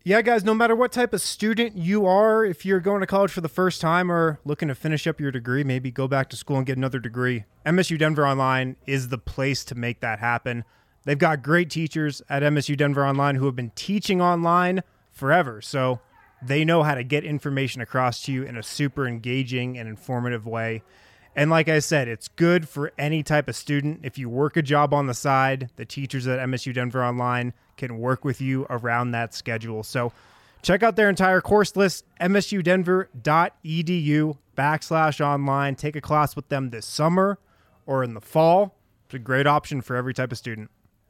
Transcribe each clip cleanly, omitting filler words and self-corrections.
Yeah, guys, no matter what type of student you are, if you're going to college for the first time or looking to finish up your degree, maybe go back to school and get another degree, MSU Denver Online is the place to make that happen. They've got great teachers at MSU Denver Online who have been teaching online forever, so they know how to get information across to you in a super engaging and informative way. And like I said, it's good for any type of student. If you work a job on the side, the teachers at MSU Denver Online can work with you around that schedule. So check out their entire course list, msudenver.edu/online. Take a class with them this summer or in the fall. It's a great option for every type of student.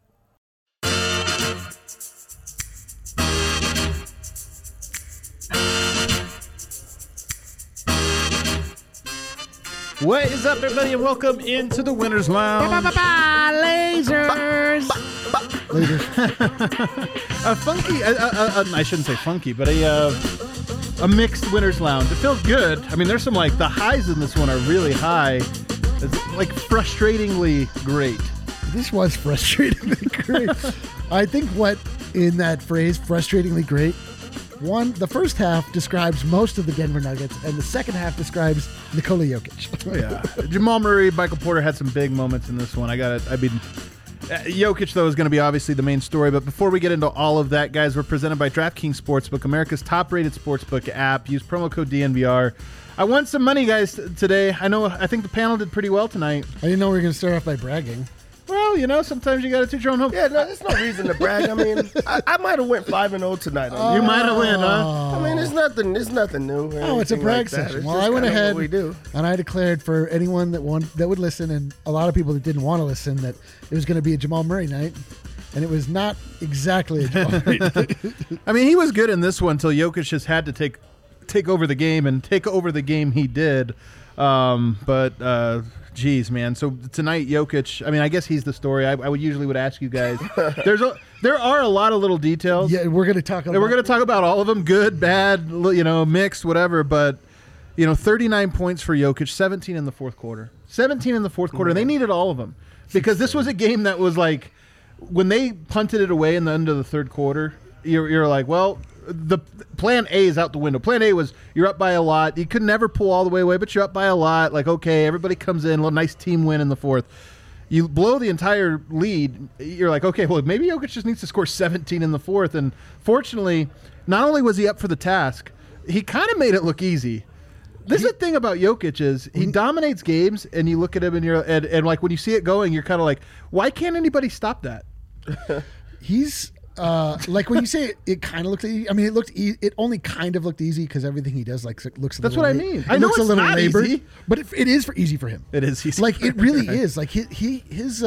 What is up, everybody, and welcome into the Winners Lounge. Lasers. A funky, I shouldn't say funky, but a mixed Winners Lounge. It feels good. I mean, there's some, like, the highs in this one are really high. It's, like, frustratingly great. This was frustratingly great. I think what in that phrase, frustratingly great, the first half describes most of the Denver Nuggets, and the second half describes Nikola Jokic. Oh, yeah. Jamal Murray, Michael Porter had some big moments in this one. Jokic, though, is going to be obviously the main story. But before we get into all of that, guys, we're presented by DraftKings Sportsbook, America's top-rated sportsbook app. Use promo code DNVR. I won some money, guys, today. I think the panel did pretty well tonight. I didn't know we were going to start off by bragging. Well, sometimes you got to toot your own home. Yeah, no, there's no reason to brag. I mean, I might have went 5-0 tonight. You might have win, huh? I mean, it's nothing new. Oh, it's a brag session. Well, I went ahead and I declared for anyone that would listen, and a lot of people that didn't want to listen, that it was going to be a Jamal Murray night, and it was not exactly a Jamal Murray night. I mean, he was good in this one until Jokic just had to take over the game, and take over the game he did. Geez, man. So tonight, Jokic, I mean, I guess he's the story. I would ask you guys. There are a lot of little details. Yeah, we're going to talk about all of them, good, bad, mixed, whatever. But, 39 points for Jokic, 17 in the fourth quarter. 17 in the fourth quarter. They needed all of them because this was a game that was like, when they punted it away in the end of the third quarter, you're like, well, the plan A is out the window. Plan A was you're up by a lot. You could never pull all the way away, but you're up by a lot. Like, okay, everybody comes in, a little nice team win in the fourth. You blow the entire lead. You're like, okay, well, maybe Jokic just needs to score 17 in the fourth. And fortunately, not only was he up for the task, he kind of made it look easy. This is the thing about Jokic is he dominates games, and you look at him and like when you see it going, you're kind of like, why can't anybody stop that? He's like when you say it kind of looked easy. I mean, it only kind of looked easy because everything he does looks. That's what I mean. I know it's a little labored, easy, but it is easy for him. It is easy. Like it really is. Like his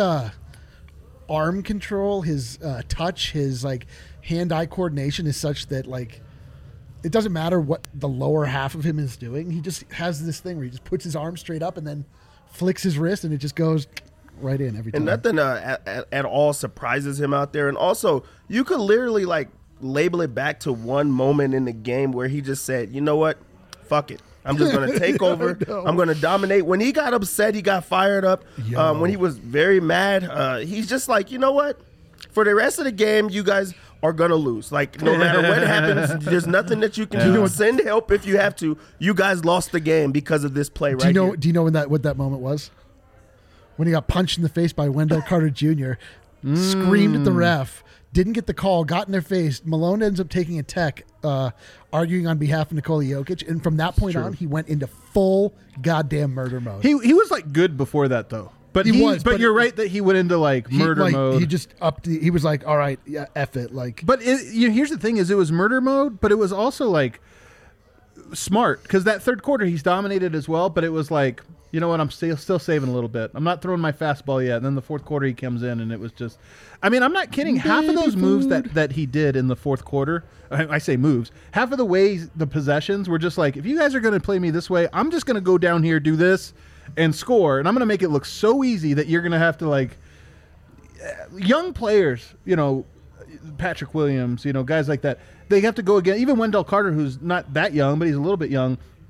arm control, his touch, his like hand-eye coordination is such that like it doesn't matter what the lower half of him is doing. He just has this thing where he just puts his arm straight up and then flicks his wrist, and it just goes right in every time. And nothing at all surprises him out there. And also, you could literally like label it back to one moment in the game where he just said, you know what, fuck it. I'm just going to take over. I'm going to dominate. When he got upset, he got fired up. When he was very mad, he's just like, you know what, for the rest of the game, you guys are going to lose. Like, no matter what happens, there's nothing that you can do. Send help if you have to. You guys lost the game because of this play here. Do you know what that moment was? When he got punched in the face by Wendell Carter Jr., screamed at the ref, didn't get the call, got in their face. Malone ends up taking a tech, arguing on behalf of Nikola Jokic, and from that point on, he went into full goddamn murder mode. He was like good before that though, but you're right that he went into like murder mode. He just he was like, all right, yeah, F it, like. But here's the thing: is it was murder mode, but it was also like smart because that third quarter he's dominated as well, but it was like, you know what, I'm still saving a little bit. I'm not throwing my fastball yet. And then the fourth quarter he comes in and it was just, I mean, I'm not kidding. Half of those moves that he did in the fourth quarter, I say moves, half of the ways, the possessions were just like, if you guys are going to play me this way, I'm just going to go down here, do this and score. And I'm going to make it look so easy that you're going to have to like, young players, Patrick Williams, guys like that, they have to go again. Even Wendell Carter, who's not that young, but he's a little bit young.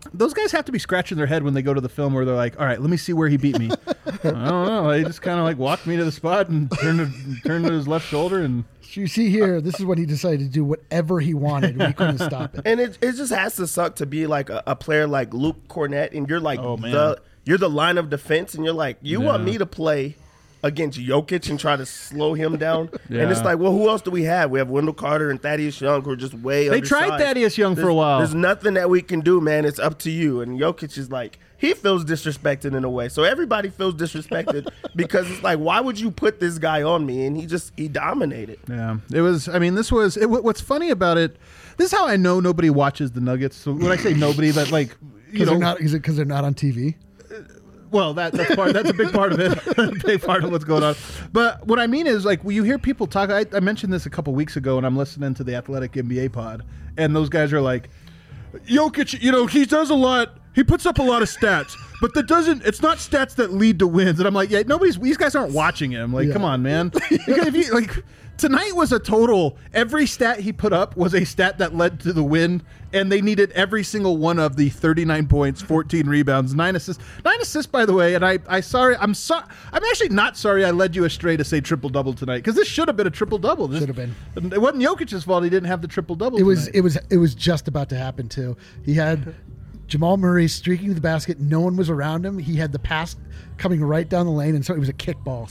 those guys have to be scratching their head when they go to the film where they're like, all right, let me see where he beat me. I don't know. He just kind of like walked me to the spot and turned to his left shoulder. And So you see here, this is when he decided to do whatever he wanted. We couldn't stop it. And it just has to suck to be like a player like Luke Cornett, and you're like Oh, man. you're the line of defense, and you're like, you want Yeah. me to play against Jokic and try to slow him down? Yeah. And it's like, well, who else do we have? We have Wendell Carter and Thaddeus Young, who are just way They undersized. tried Thaddeus Young for a while. There's nothing that we can do, man. It's up to you. And Jokic is like, he feels disrespected in a way. So everybody feels disrespected because it's like, why would you put this guy on me? And he dominated. yeah, it was. I mean, what's funny about it. This is how I know nobody watches the Nuggets. So when I say nobody, but like Is it because they're not on TV? Well, that's a big part of it, a big part of what's going on. But what I mean is, like, when you hear people talk, I mentioned this a couple weeks ago, and I'm listening to the Athletic NBA pod, and those guys are like, Jokic, he does a lot. He puts up a lot of stats, but it's not stats that lead to wins. And I'm like, yeah, these guys aren't watching him. Like, come on, man. Because if you tonight was a total. Every stat he put up was a stat that led to the win, and they needed every single one of the 39 points, 14 rebounds, 9 assists. 9 assists, by the way. And I'm actually not sorry I led you astray to say triple double tonight, because this should have been a triple double. Should have been. It wasn't Jokic's fault he didn't have the triple double. It was just about to happen too. He had Jamal Murray streaking to the basket. No one was around him. He had the pass coming right down the lane, and so it was a kickball.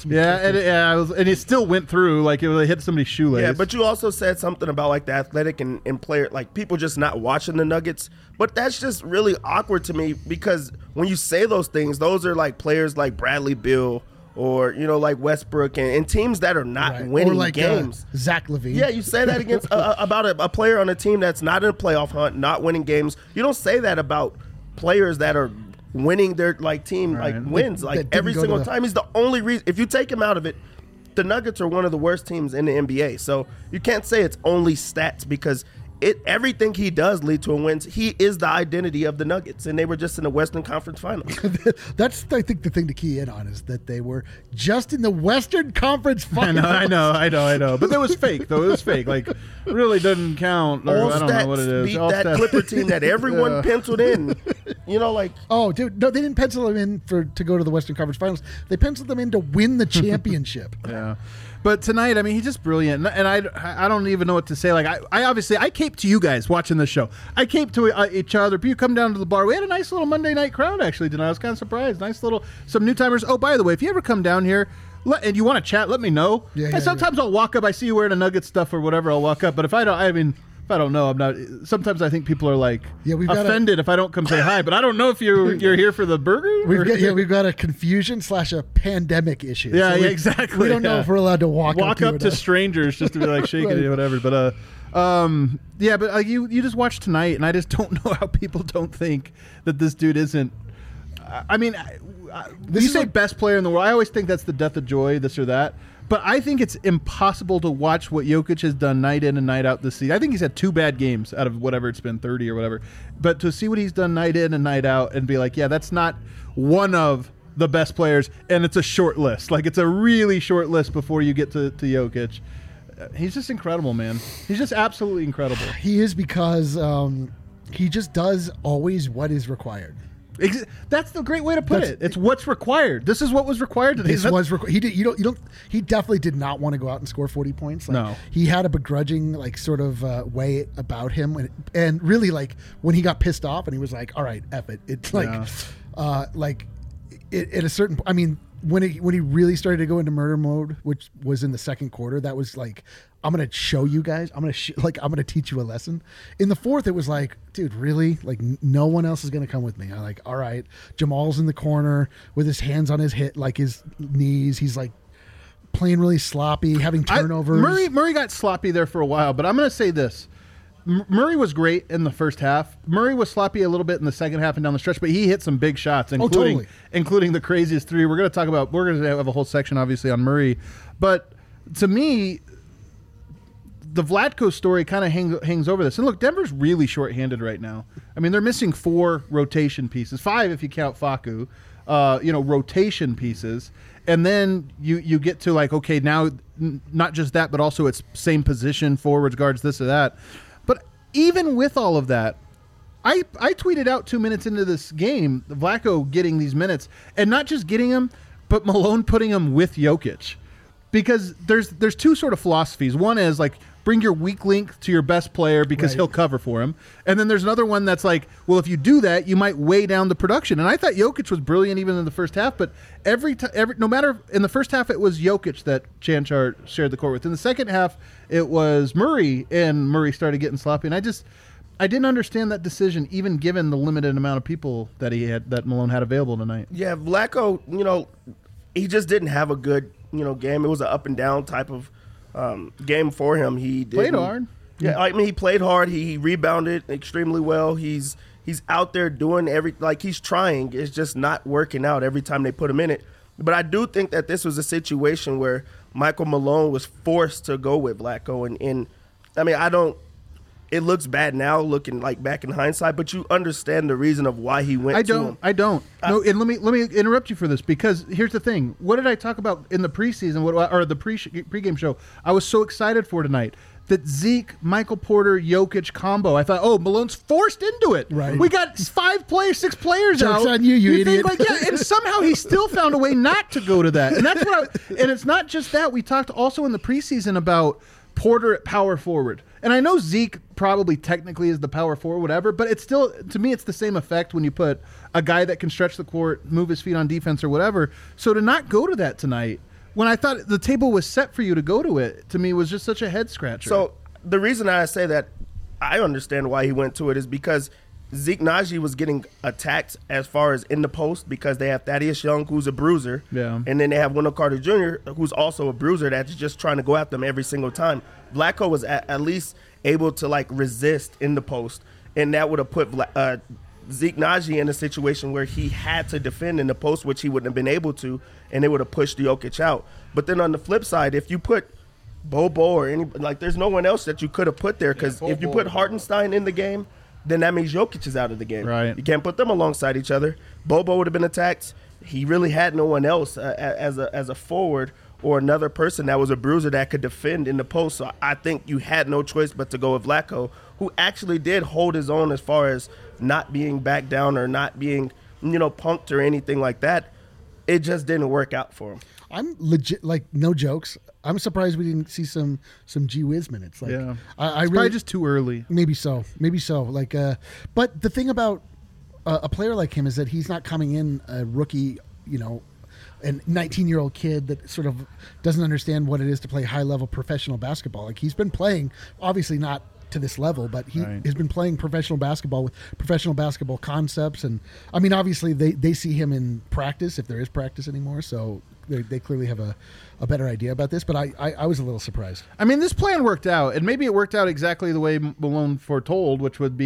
And it still went through like it hit somebody's shoelace. Yeah, but you also said something about like the athletic and player, like people just not watching the Nuggets. But that's just really awkward to me, because when you say those things, those are like players like Bradley Beal or like Westbrook and teams that are not winning or like, games. Zach LaVine. Yeah, you say that against about a player on a team that's not in a playoff hunt, not winning games. You don't say that about players that are winning their team wins That didn't every go single to the- time. He's the only reason. If you take him out of it, the Nuggets are one of the worst teams in the NBA. So you can't say it's only stats, because everything he does lead to a win. He is the identity of the Nuggets, and they were just in the Western Conference Finals. That's, I think, the thing to key in on is that they were just in the Western Conference Finals. I know. But that was fake, though. It was fake. Like, really doesn't count. Or All I don't know stats what it is. beat All that stats. Clipper team that everyone penciled in. Oh, dude, no, they didn't pencil them in to go to the Western Conference Finals. They penciled them in to win the championship. Yeah. But tonight, I mean, he's just brilliant, and I don't even know what to say. Like, I cape to you guys watching this show. I cape to each other. You come down to the bar. We had a nice little Monday night crowd actually tonight. I was kind of surprised. Nice little some new timers. Oh, by the way, if you ever come down here and you want to chat, let me know. Yeah, and sometimes I'll walk up. I see you wearing a Nugget stuff or whatever. I'll walk up. But if I don't know, I'm not. Sometimes I think people are like offended if I don't come say hi. But I don't know if you're here for the burger. We've got a confusion / a pandemic issue. Yeah, So exactly. We don't know if we're allowed to walk up to strangers just to be like shaking it, whatever. But you just watch tonight, and I just don't know how people don't think that this dude isn't. I mean, you say best player in the world. I always think that's the death of joy, this or that. But I think it's impossible to watch what Jokic has done night in and night out this season. I think he's had 2 bad games out of whatever it's been, 30 or whatever. But to see what he's done night in and night out and be like, yeah, that's not one of the best players, and it's a short list. Like, it's a really short list before you get to Jokic. He's just incredible, man. He's just absolutely incredible. He is, because he just does always what is required. That's the great way to put it. It's what's required. This is what was required today. He definitely did not want to go out and score 40 points. No. He had a begrudging sort of way about him, and really when he got pissed off and he was like, all right, F it. It's at a certain point, I mean, when he really started to go into murder mode, which was in the second quarter, that was like, I'm gonna show you guys. I'm gonna teach you a lesson. In the fourth, it was like, dude, really? Like, no one else is gonna come with me. I'm like, all right. Jamal's in the corner with his hands on his his knees. He's like playing really sloppy, having turnovers. Murray got sloppy there for a while, but I'm gonna say this. Murray was great in the first half. Murray was sloppy a little bit in the second half and down the stretch, but he hit some big shots, including the craziest 3. We're going to have a whole section, obviously, on Murray. But to me, the Vlatko story kind of hangs over this. And look, Denver's really shorthanded right now. I mean, they're missing 4 rotation pieces, 5 if you count Facu, rotation pieces. And then you get to okay, now not just that, but also it's same position, forwards, guards, this or that. But even with all of that, I tweeted out 2 minutes into this game, Vlatko getting these minutes, and not just getting them, but Malone putting them with Jokic. Because there's two sort of philosophies. One is like, bring your weak link to your best player because he'll cover for him. And then there's another one that's like, well, if you do that, you might weigh down the production. And I thought Jokic was brilliant even in the first half, but no matter, in the first half, it was Jokic that Chanchar shared the court with. In the second half, it was Murray, and Murray started getting sloppy. And I didn't understand that decision, even given the limited amount of people that that Malone had available tonight. Yeah, Vlatko, he just didn't have a good, game. It was an up and down type of game for him. He played hard. Yeah, I mean, he played hard. He rebounded extremely well. He's out there doing he's trying. It's just not working out every time they put him in it. But I do think that this was a situation where Michael Malone was forced to go with Vlatko, and I mean, it looks bad now, looking like back in hindsight, but you understand the reason of why he went to him. I don't. No, and let me interrupt you for this, because here's the thing. What did I talk about in the preseason or the pregame show? I was so excited for tonight. That Zeke, Michael Porter, Jokic combo. I thought, Malone's forced into it. Right. We got 6 players Joke's out. on you idiot. And somehow he still found a way not to go to that. And that's what and it's not just that. We talked also in the preseason about Porter at power forward. And I know Zeke probably technically is the power forward, whatever, but it's still, to me, it's the same effect when you put a guy that can stretch the court, move his feet on defense or whatever. So to not go to that tonight, when I thought the table was set for you to go to it, to me was just such a head scratcher. So the reason I say that I understand why he went to it is because Zeke Naji was getting attacked as far as in the post, because they have Thaddeus Young, who's a bruiser, and then they have Wendell Carter Jr., who's also a bruiser that's just trying to go after them every single time. Vlatko was at least able to resist in the post, and that would have put Zeke Naji in a situation where he had to defend in the post, which he wouldn't have been able to, and it would have pushed Jokic out. But then on the flip side, if you put Bobo or any, there's no one else that you could have put there, because if you put Hartenstein in the game, then that means Jokic is out of the game. Right. You can't put them alongside each other. Bobo would have been attacked. He really had no one else as a forward or another person that was a bruiser that could defend in the post. So I think you had no choice but to go with Vlatko, who actually did hold his own as far as not being back down or not being, punked or anything like that. It just didn't work out for him. I'm legit, no jokes. I'm surprised we didn't see some G Wiz minutes. Yeah, I it's really, probably just too early. Maybe so. But the thing about a player like him is that he's not coming in a rookie, a 19-year-old kid that sort of doesn't understand what it is to play high-level professional basketball. He's been playing, obviously not to this level, but he has been playing professional basketball with professional basketball concepts. And I mean, obviously they see him in practice, if there is practice anymore. So they clearly have a better idea about this. But I was a little surprised. I mean, this plan worked out, and maybe it worked out exactly the way Malone foretold, which would be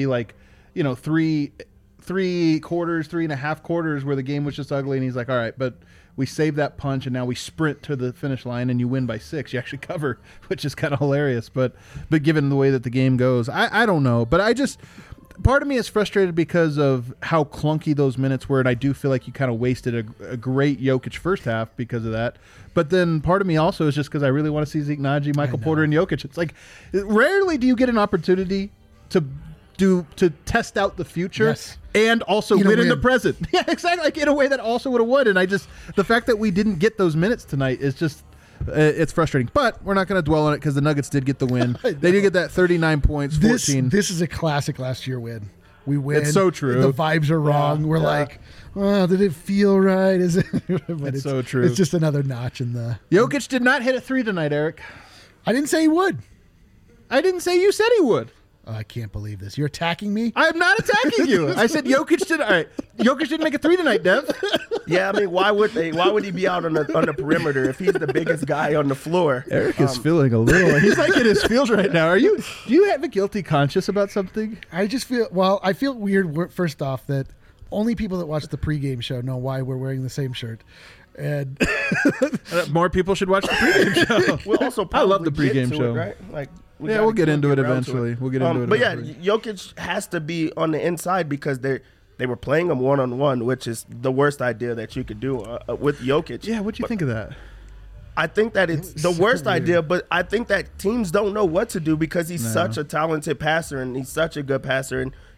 3 quarters, 3.5 quarters where the game was just ugly, and he's like, all right, but we save that punch, and now we sprint to the finish line, and you win by 6. You actually cover, which is kind of hilarious. But given the way that the game goes, I don't know. But part of me is frustrated because of how clunky those minutes were, and I do feel like you kind of wasted a great Jokic first half because of that. But then part of me also is just because I really want to see Zeke Naji, Michael Porter, and Jokic. It's rarely do you get an opportunity to test out the future and also win in the present. Yeah, exactly. In a way that also would have won. And the fact that we didn't get those minutes tonight is just, it's frustrating. But we're not going to dwell on it because the Nuggets did get the win. They did get that 39 points, 14. This is a classic last year win. We win. It's so true. The vibes are wrong. We're like, oh, did it feel right? Is it? But it's so true. It's just another notch in the. Jokic did not hit a 3 tonight, Eric. I didn't say he would. I didn't say you said he would. I can't believe this. You're attacking me? I am not attacking you. I said Jokic did. All right, Jokic didn't make a 3 tonight, Dev. Yeah, I mean, why would they? Why would he be out on the perimeter if he's the biggest guy on the floor? Eric is feeling a little. He's like in his feels right now. Do you have a guilty conscience about something? I just feel. Well, I feel weird. First off, that only people that watch the pregame show know why we're wearing the same shirt. And more people should watch the pregame show. We'll also I love the pregame show, right? We'll get into it eventually. We'll get into it. But Jokic has to be on the inside because they were playing him one-on-one, which is the worst idea that you could do with Jokic. Yeah, what do you think of that? I think that it's the worst idea, but I think that teams don't know what to do because he's such a talented passer and he's such a good passer. And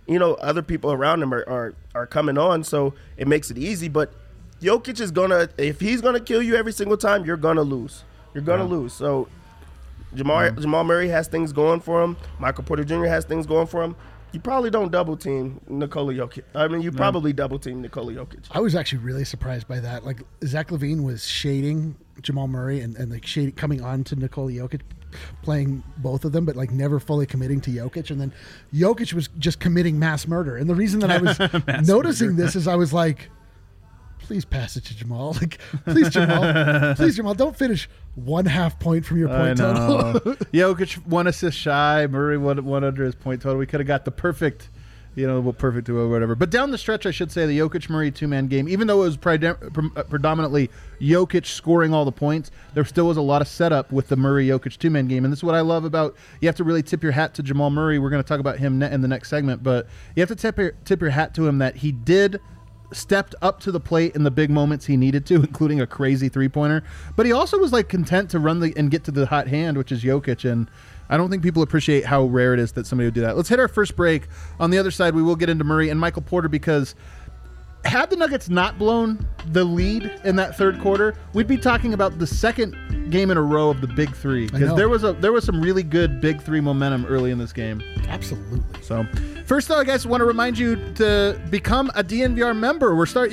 other people around him are coming on, so it makes it easy. But Jokic is if he's gonna kill you every single time, you're gonna lose. You're gonna lose. So Jamal Murray has things going for him. Michael Porter Jr. has things going for him. You probably don't double team Nikola Jokic. I mean, you probably double team Nikola Jokic. I was actually really surprised by that. Like Zach LaVine was shading Jamal Murray and like coming on to Nikola Jokic, playing both of them, but like never fully committing to Jokic. And then Jokic was just committing mass murder. And the reason that I was noticing this is I was like, please pass it to Jamal. Like, please, Jamal, don't finish 1/2 point from your point total. Jokic 1 assist shy. Murray one under his point total. We could have got the perfect, perfect duo or whatever. But down the stretch, I should say, the Jokic-Murray two-man game, even though it was predominantly Jokic scoring all the points, there still was a lot of setup with the Murray-Jokic two-man game. And this is what I love about, you have to really tip your hat to Jamal Murray. We're going to talk about him in the next segment. But you have to tip your hat to him that he stepped up to the plate in the big moments he needed to, including a crazy three-pointer. But he also was like content to run and get to the hot hand, which is Jokic. And I don't think people appreciate how rare it is that somebody would do that. Let's hit our first break. On the other side, we will get into Murray and Michael Porter, because had the Nuggets not blown the lead in that third quarter, we'd be talking about the second game in a row of the big three, because there was some really good big three momentum early in this game. Absolutely. So first, though, I guess I want to remind you to become a DNVR member.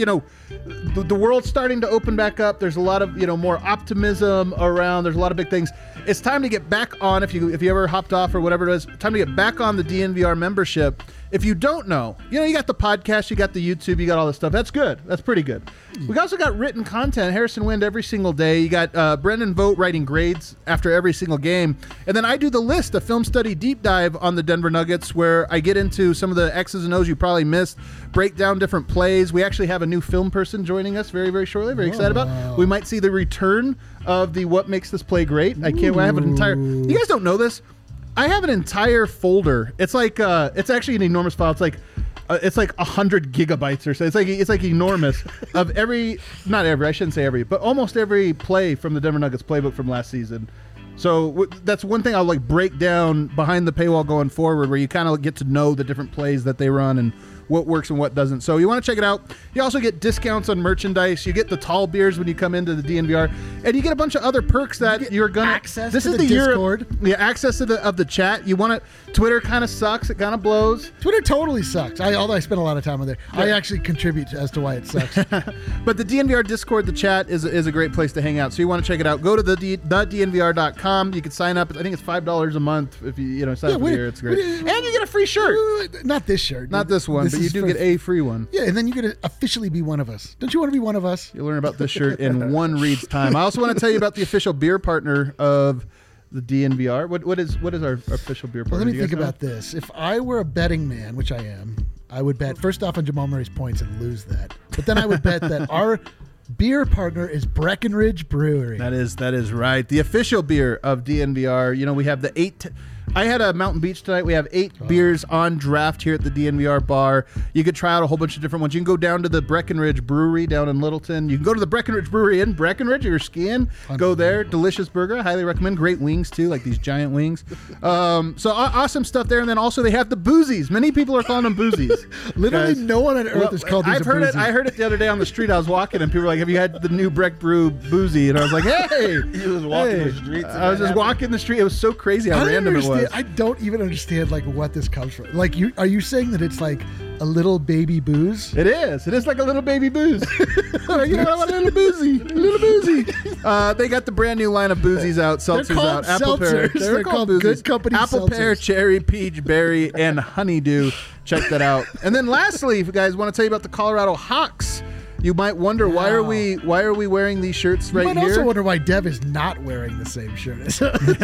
The world's starting to open back up. There's a lot of more optimism around. There's a lot of big things. It's time to get back on. If you ever hopped off or whatever it is, time to get back on the DNVR membership. If you don't know, you got the podcast, you got the YouTube, you got all this stuff. That's good. That's pretty good. We also got written content. Harrison Wind every single day. You got Brendan Vogt writing grades after every single game. And then I do the list, a film study deep dive on the Denver Nuggets, where I get into some of the X's and O's you probably missed, break down different plays. We actually have a new film person joining us very, very shortly. Very excited about. We might see the return of the What Makes This Play Great. I can't wait. I have an entire... You guys don't know this. I have an entire folder. It's like it's actually an enormous file. It's like 100 gigabytes or so. It's like enormous of not every, I shouldn't say every, but almost every play from the Denver Nuggets playbook from last season. So that's one thing I'll like break down behind the paywall going forward, where you kind of get to know the different plays that they run and what works and what doesn't. So you want to check it out. You also get discounts on merchandise. You get the tall beers when you come into the DNVR, and you get a bunch of other perks that you're gonna access. This to is the Discord. Access to the chat. You want to. Twitter kind of sucks. It kind of blows. Twitter totally sucks. Although I spend a lot of time on there, I actually contribute as to why it sucks. But the DNVR Discord, the chat is a great place to hang out. So you want to check it out. Go to thednvr.com. You can sign up. I think it's $5 a month if you sign up for the year. It's great, and you get a free shirt. Not this shirt. Not this one, but you do get a free one. Yeah, and then you get to officially be one of us. Don't you want to be one of us? You'll learn about this shirt in one read's time. I also want to tell you about the official beer partner of the DNVR. What is our official beer partner? Well, let me think about this. If I were a betting man, which I am, I would bet first off on Jamal Murray's points and lose that. But then I would bet that our beer partner is Breckenridge Brewery. That is right. The official beer of DNVR. We have the 8... I had a Mountain Beach tonight. We have 8 beers on draft here at the DNVR bar. You could try out a whole bunch of different ones. You can go down to the Breckenridge Brewery down in Littleton. You can go to the Breckenridge Brewery in Breckenridge if you're skiing. Go there. Delicious burger. I highly recommend. Great wings, too, like these giant wings. So awesome stuff there. And then also they have the boozies. Many people are calling them boozies. Literally no one on earth is called these I've heard it. I heard it the other day on the street. I was walking and people were like, have you had the new Breck Brew boozy? And I was like, hey. You was walking the streets. I was just walking the street. It was so crazy how random it was. I don't even understand like what this comes from. Like, are you saying that it's like a little baby booze? It is. It is like a little baby booze. A little boozy. They got the brand new line of boozies out, seltzers out, apple pear. They're called Good Company apple pear, cherry, peach, berry, and honeydew. Check that out. And then lastly, if you guys want to tell you about the Colorado Hawks. You might wonder why are we wearing these shirts right here? You might also wonder why Dev is not wearing the same shirt as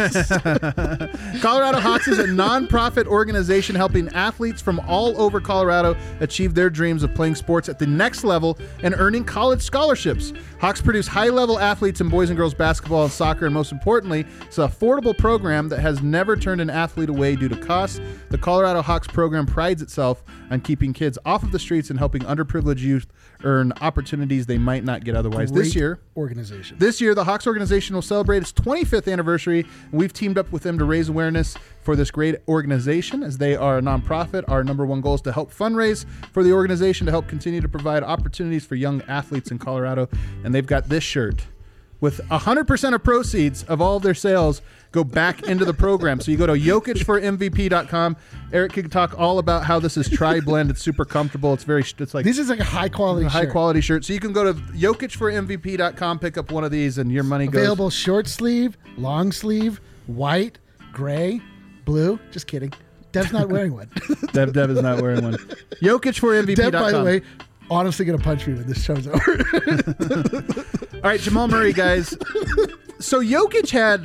us. Colorado Hawks is a non-profit organization helping athletes from all over Colorado achieve their dreams of playing sports at the next level and earning college scholarships. Hawks produce high-level athletes in boys and girls basketball and soccer, and most importantly, it's an affordable program that has never turned an athlete away due to costs. The Colorado Hawks program prides itself on keeping kids off of the streets and helping underprivileged youth earn opportunities they might not get otherwise. Great This year, the Hawks organization will celebrate its 25th anniversary. We've teamed up with them to raise awareness for this great organization, as they are a nonprofit. Our number one goal is to help fundraise for the organization to help continue to provide opportunities for young athletes in Colorado. And they've got this shirt with 100% of proceeds of all of their sales go back into the program. So you go to JokicForMVP.com. Eric can talk all about how this is tri-blend. It's super comfortable. It's like this is like a high quality shirt. So you can go to JokicForMVP.com, pick up one of these, and your money goes. Available short sleeve, long sleeve, white, gray, blue. Just kidding. Dev's not wearing one. Dev is not wearing one. JokicForMVP.com. Dev, by the way, honestly going to punch me when this show's over. All right, Jamal Murray, guys. So Jokic had,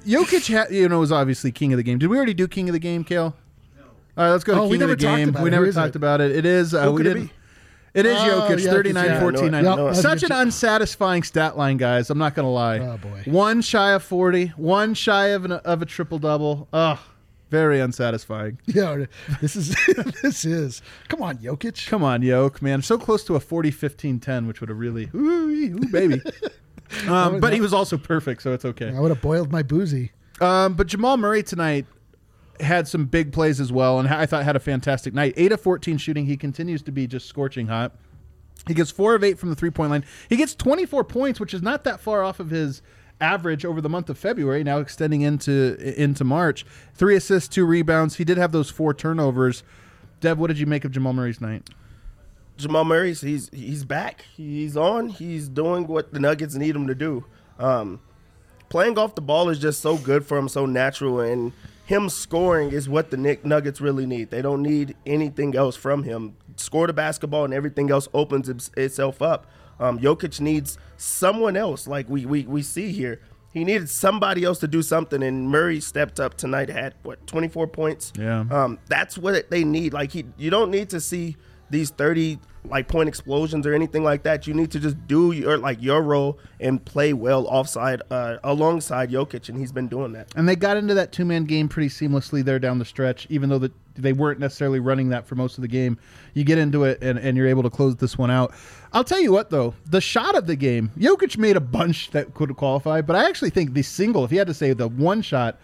was obviously king of the game. Did we already do king of the game, Kale? No. All right, let's go to king of the game. We never talked about it. It is. We didn't. It is Jokic, 39, 14, 9. Such an unsatisfying stat line, guys. I'm not going to lie. Oh, boy. One shy of 40, one shy of a triple-double. Ugh. Very unsatisfying. Yeah, this is. Come on, Jokic. Come on, Jokic, man. So close to a 40-15-10, which would have really, ooh, baby. But he was also perfect, so it's okay. I would have boiled my boozy. But Jamal Murray tonight had some big plays as well, and I thought had a fantastic night. 8 of 14 shooting. He continues to be just scorching hot. He gets 4 of 8 from the three-point line. He gets 24 points, which is not that far off of his average over the month of February, now extending into March. 3 assists, 2 rebounds. He did have those 4 turnovers. Dev, what did you make of Jamal Murray's night? Jamal Murray, he's back. He's on. He's doing what the Nuggets need him to do. Playing off the ball is just so good for him, so natural, and him scoring is what the Nuggets really need. They don't need anything else from him. Score the basketball and everything else opens itself up. Jokic needs someone else, like we see here. He needed somebody else to do something, and Murray stepped up tonight, had 24 points. Yeah. That's what they need. Like you don't need to see these 30 point explosions or anything like that. You need to just do your role and play well alongside Jokic, and he's been doing that. And they got into that 2-man game pretty seamlessly there down the stretch, even though they weren't necessarily running that for most of the game. You get into it, and you're able to close this one out. I'll tell you what, though, the shot of the game, Jokic made a bunch that could qualify, but I actually think the single, if you had to say the one shot,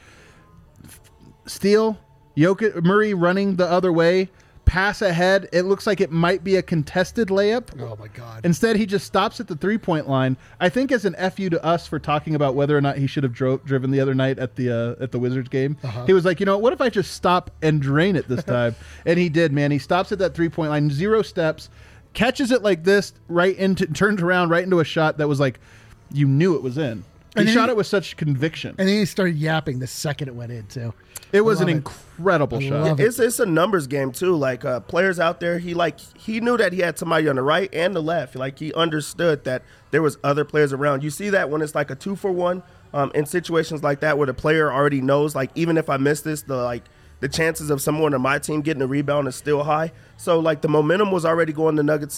steal, Jokic, Murray running the other way, pass ahead, it looks like it might be a contested layup. Oh, my God. Instead, he just stops at the three-point line. I think as an FU to us for talking about whether or not he should have driven the other night at the Wizards game, he was like, what if I just stop and drain it this time? And he did, man. He stops at that three-point line, 0 steps, catches it like this, turns around right into a shot that was like, you knew it was in. He shot it with such conviction. And then he started yapping the second it went in, too. It was an incredible shot. It's a numbers game, too. Like, players out there, he knew that he had somebody on the right and the left. Like, he understood that there was other players around. You see that when it's like a 2-for-1 in situations like that where the player already knows, like, even if I miss this, the chances of someone on my team getting a rebound is still high. So, like, the momentum was already going on the Nuggets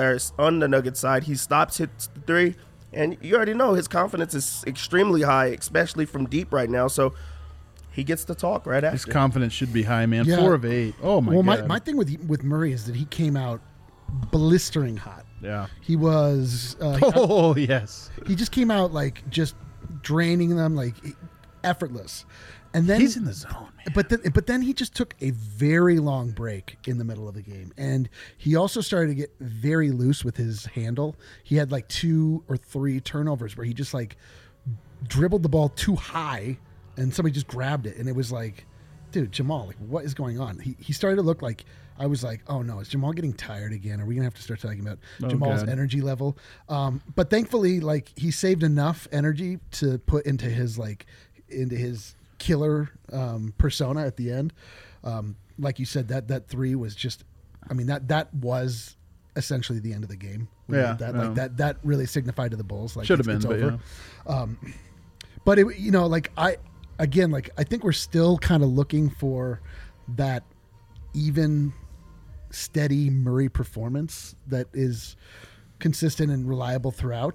side. He stops, hits the three. And you already know his confidence is extremely high, especially from deep right now. So he gets to talk right after. His confidence should be high, man. Yeah. 4 of 8. Oh, my God. Well, my thing with Murray is that he came out blistering hot. Yeah. He was... yes. He just came out, like, just draining them, like, effortless. And then he's in the zone, man. But then he just took a very long break in the middle of the game, and he also started to get very loose with his handle. He had like 2 or 3 turnovers where he just like dribbled the ball too high, and somebody just grabbed it, and it was like, dude, Jamal, like, what is going on? He started to look like, I was like, oh no, is Jamal getting tired again? Are we gonna have to start talking about Jamal's energy level? But thankfully, like, he saved enough energy to put into his killer persona at the end. Like you said, that 3 was just, I mean, that was essentially the end of the game. Yeah, that really signified to the Bulls, like, should have been, it's but over. Yeah. But it, like, I think we're still kind of looking for that even, steady Murray performance that is consistent and reliable throughout.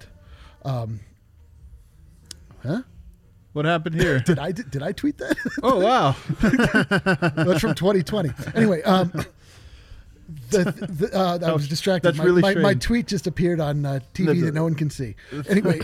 What happened here? Did I tweet that? Oh, wow. That's from 2020. Anyway, I was distracted. That's really my strange. tweet just appeared on TV that no one can see. Anyway,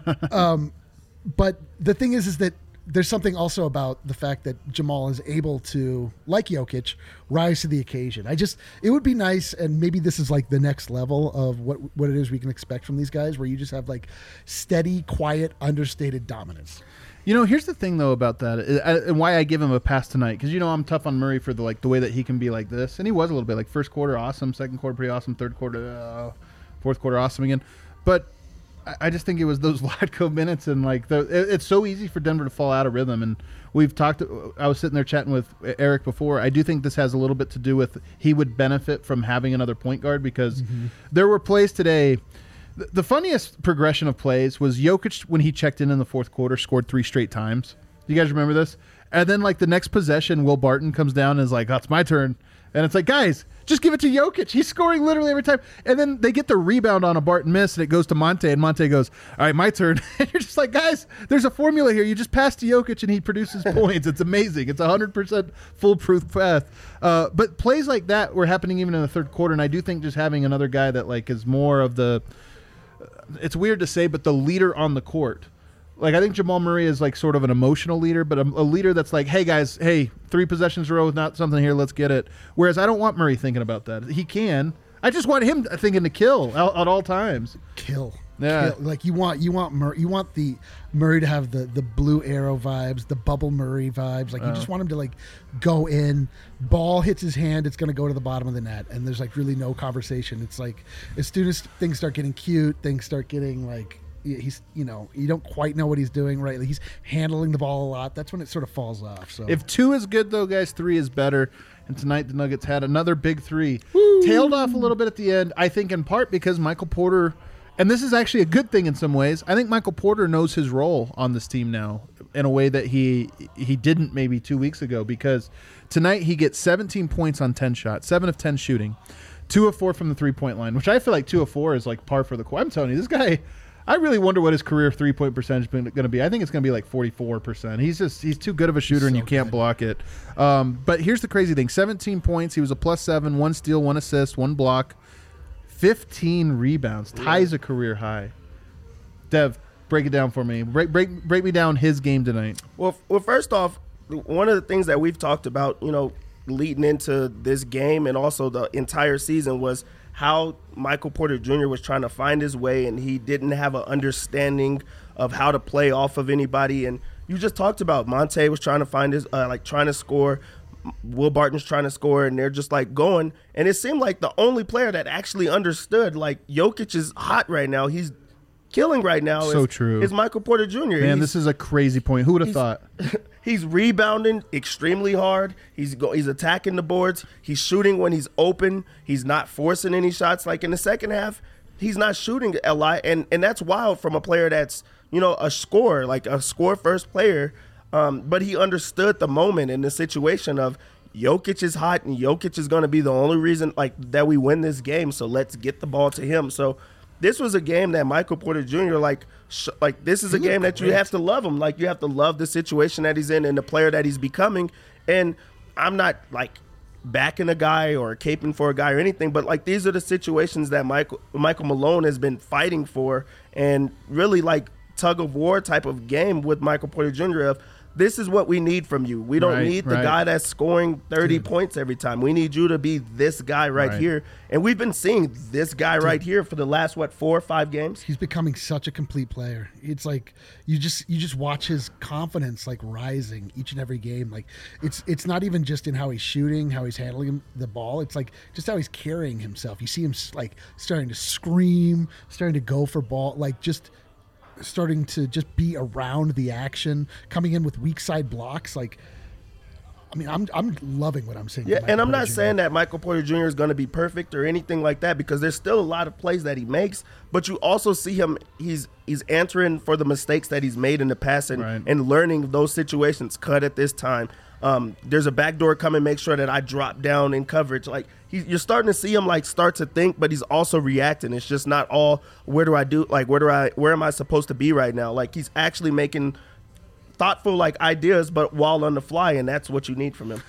but the thing is that there's something also about the fact that Jamal is able to, like Jokic, rise to the occasion. It would be nice, and maybe this is like the next level of what it is we can expect from these guys, where you just have like steady, quiet, understated dominance. Here's the thing though about that, and why I give him a pass tonight, because I'm tough on Murray for the way that he can be like this, and he was a little bit like first quarter awesome, second quarter pretty awesome, third quarter, fourth quarter awesome again, but I just think it was those Vlatko minutes, and it's so easy for Denver to fall out of rhythm. And we've talked. I was sitting there chatting with Eric before. I do think this has a little bit to do with he would benefit from having another point guard, because there were plays today. The funniest progression of plays was Jokic when he checked in the fourth quarter, scored 3 straight times. You guys remember this? And then the next possession, Will Barton comes down and is like, "Oh, it's my turn," and it's like, guys, just give it to Jokic. He's scoring literally every time. And then they get the rebound on a Barton miss, and it goes to Monte, and Monte goes, "All right, my turn." And you're just like, guys, there's a formula here. You just pass to Jokic, and he produces points. It's amazing. It's 100% foolproof path. But plays like that were happening even in the third quarter, and I do think just having another guy that is more of the it's weird to say, but the leader on the court. I think Jamal Murray is sort of an emotional leader, but a leader that's like, hey guys, 3 possessions in a row is not something here, let's get it. Whereas I don't want Murray thinking about that. He can. I just want him thinking to kill at all times. Kill. Yeah. Kill. You want the Murray to have the blue arrow vibes, the bubble Murray vibes. You just want him to go in, ball hits his hand, it's going to go to the bottom of the net, and there's really no conversation. It's as soon as things start getting cute, things start getting he's you don't quite know what he's doing right. He's handling the ball a lot. That's when it sort of falls off. So if 2 is good though, guys, 3 is better. And tonight the Nuggets had another big 3. Woo! Tailed off a little bit at the end, I think in part because Michael Porter, and this is actually a good thing in some ways, I think Michael Porter knows his role on this team now in a way that he didn't maybe 2 weeks ago, because tonight he gets 17 points on 10 shots, 7 of 10 shooting, 2 of 4 from the 3-point line, which I feel like 2 of 4 is par for the course. I'm telling you, this guy, I really wonder what his career 3-point percentage is going to be. I think it's going to be 44%. He's too good of a shooter, and you can't block it. But here's the crazy thing: 17 points. He was a +7, 1 steal, 1 assist, 1 block, 15 rebounds, ties a career high. Dev, break it down for me. Break me down his game tonight. Well, first off, one of the things that we've talked about, leading into this game and also the entire season was how Michael Porter Jr. was trying to find his way, and he didn't have an understanding of how to play off of anybody. And you just talked about Monte was trying to find his, trying to score. Will Barton's trying to score, and they're just going. And it seemed like the only player that actually understood, Jokic is hot right now. He's killing right now. So true. Is Michael Porter Jr. Man, this is a crazy point. Who would have thought? He's rebounding extremely hard. He's attacking the boards. He's shooting when he's open. He's not forcing any shots. In the second half, he's not shooting a lot, and that's wild from a player that's a scorer, a score-first player. But he understood the moment and the situation of Jokic is hot, and Jokic is going to be the only reason that we win this game. So let's get the ball to him. So this was a game that Michael Porter Jr. This is a game that you have to love him. You have to love the situation that he's in and the player that he's becoming. And I'm not backing a guy or caping for a guy or anything, but these are the situations that Michael Malone has been fighting for, and really tug of war type of game with Michael Porter Jr. of, this is what we need from you. We don't need the guy that's scoring 30 points every time. We need you to be this guy right here. And we've been seeing this guy right here for the last, 4 or 5 games? He's becoming such a complete player. It's you just watch his confidence rising each and every game. It's not even just in how he's shooting, how he's handling the ball. It's just how he's carrying himself. You see him starting to scream, starting to go for ball, just starting to just be around the action, coming in with weak side blocks. I'm loving what I'm seeing. Yeah, and I'm not saying that Michael Porter Jr. is going to be perfect or anything like that, because there's still a lot of plays that he makes, but you also see him, he's answering for the mistakes that he's made in the past and learning those situations. Cut at this time. There's a backdoor coming, make sure that I drop down in coverage. You're starting to see him start to think, but he's also reacting. It's just not all, where am I supposed to be right now? He's actually making thoughtful ideas, but while on the fly, and that's what you need from him.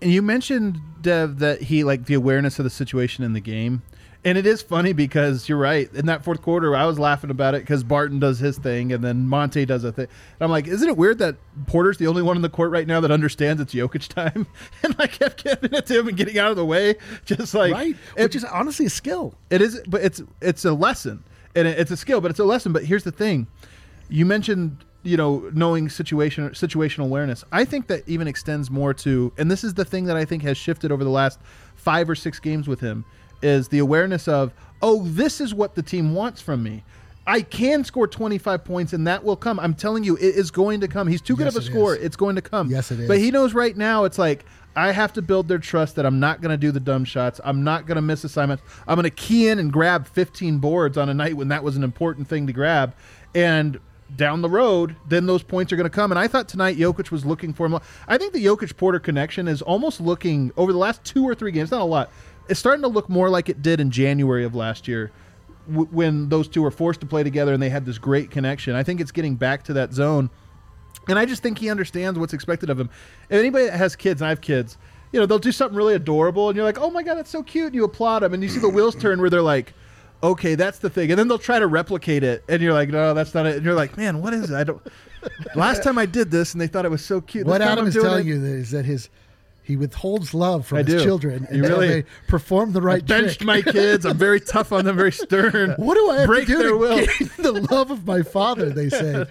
And you mentioned, Dev, that he like the awareness of the situation in the game. And it is funny because you're right. In that fourth quarter, I was laughing about it because Barton does his thing and then Monte does a thing. And I'm like, isn't it weird that Porter's the only one in the court right now that understands it's Jokic time? And I kept giving it to him and getting out of the way. Just like, right. Which is honestly a skill. It is, but it's a lesson. And it's a skill, but it's a lesson. But here's the thing. You mentioned, knowing situational awareness. I think that even extends more to, and this is the thing that I think has shifted over the last 5 or 6 games with him, is the awareness of, this is what the team wants from me. I can score 25 points and that will come. I'm telling you, it is going to come. He's too good of a scorer. It's going to come. Yes, it is. But he knows right now it's like, I have to build their trust that I'm not going to do the dumb shots. I'm not going to miss assignments. I'm going to key in and grab 15 boards on a night when that was an important thing to grab. And down the road, then those points are going to come. And I thought tonight Jokic was looking for him. I think the Jokic-Porter connection is almost looking, over the last 2 or 3 games, not a lot, it's starting to look more like it did in January of last year when those two were forced to play together and they had this great connection. I think it's getting back to that zone. And I just think he understands what's expected of him. If anybody that has kids, and I have kids, they'll do something really adorable and you're like, oh my God, that's so cute. And you applaud them and you see the wheels turn where they're like, okay, that's the thing. And then they'll try to replicate it and you're like, no, that's not it. And you're like, man, what is it? Last time I did this and they thought it was so cute. What Adam is telling you is that he withholds love from his children until they perform the right trick. Benched my kids. I'm very tough on them, very stern. What do I have Break to do their to will? gain the love of my father, they say.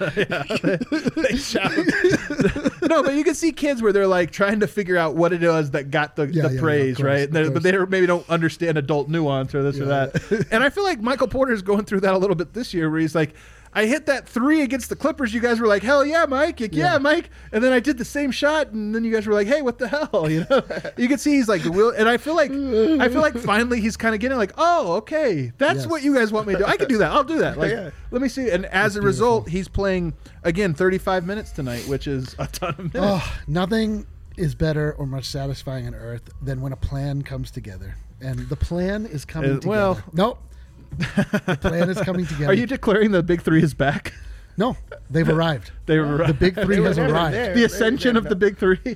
They shout. No, but you can see kids where they're like trying to figure out what it was that got the praise, course, right? But they maybe don't understand adult nuance or this or that. And I feel like Michael Porter is going through that a little bit this year where he's like, I hit that 3 against the Clippers. You guys were like, hell yeah, Mike. Yeah, Mike. And then I did the same shot. And then you guys were like, hey, what the hell? You can see he's like the wheel. And I feel like finally he's kind of getting like, oh, okay. That's what you guys want me to do. I can do that. I'll do that. Like, let me see. And as a result, he's playing, again, 35 minutes tonight, which is a ton of minutes. Oh, nothing is better or much satisfying on earth than when a plan comes together. And the plan is coming together. Well, nope. The plan is coming together. Are you declaring the Big Three is back? No, they've arrived. They've arrived. The Big Three has arrived. The ascension of the Big Three.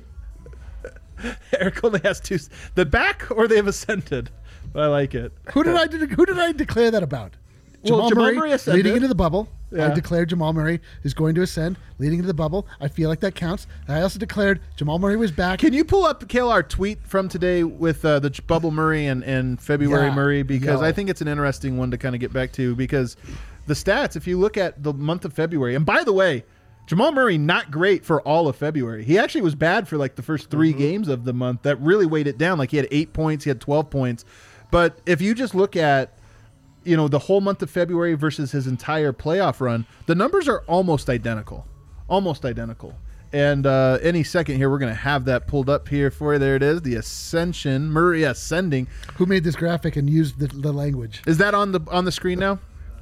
Eric only has 2. The back or they've ascended. But I like it. Who did I declare that about? Jamal Murray ascended. Leading into the bubble. Yeah. I declared Jamal Murray is going to ascend, leading into the bubble. I feel like that counts. I also declared Jamal Murray was back. Can you pull up, Kale, our tweet from today with the Bubble Murray and February Murray? Because I think it's an interesting one to kind of get back to, because the stats, if you look at the month of February, and by the way, Jamal Murray, not great for all of February. He actually was bad for like the first 3 games of the month. That really weighed it down. Like he had 8 points, he had 12 points. But if you just look at the whole month of February versus his entire playoff run, the numbers are almost identical. And any second here, we're going to have that pulled up here for you. There it is, the ascension, Murray ascending. Who made this graphic and used the language? Is that on the screen now?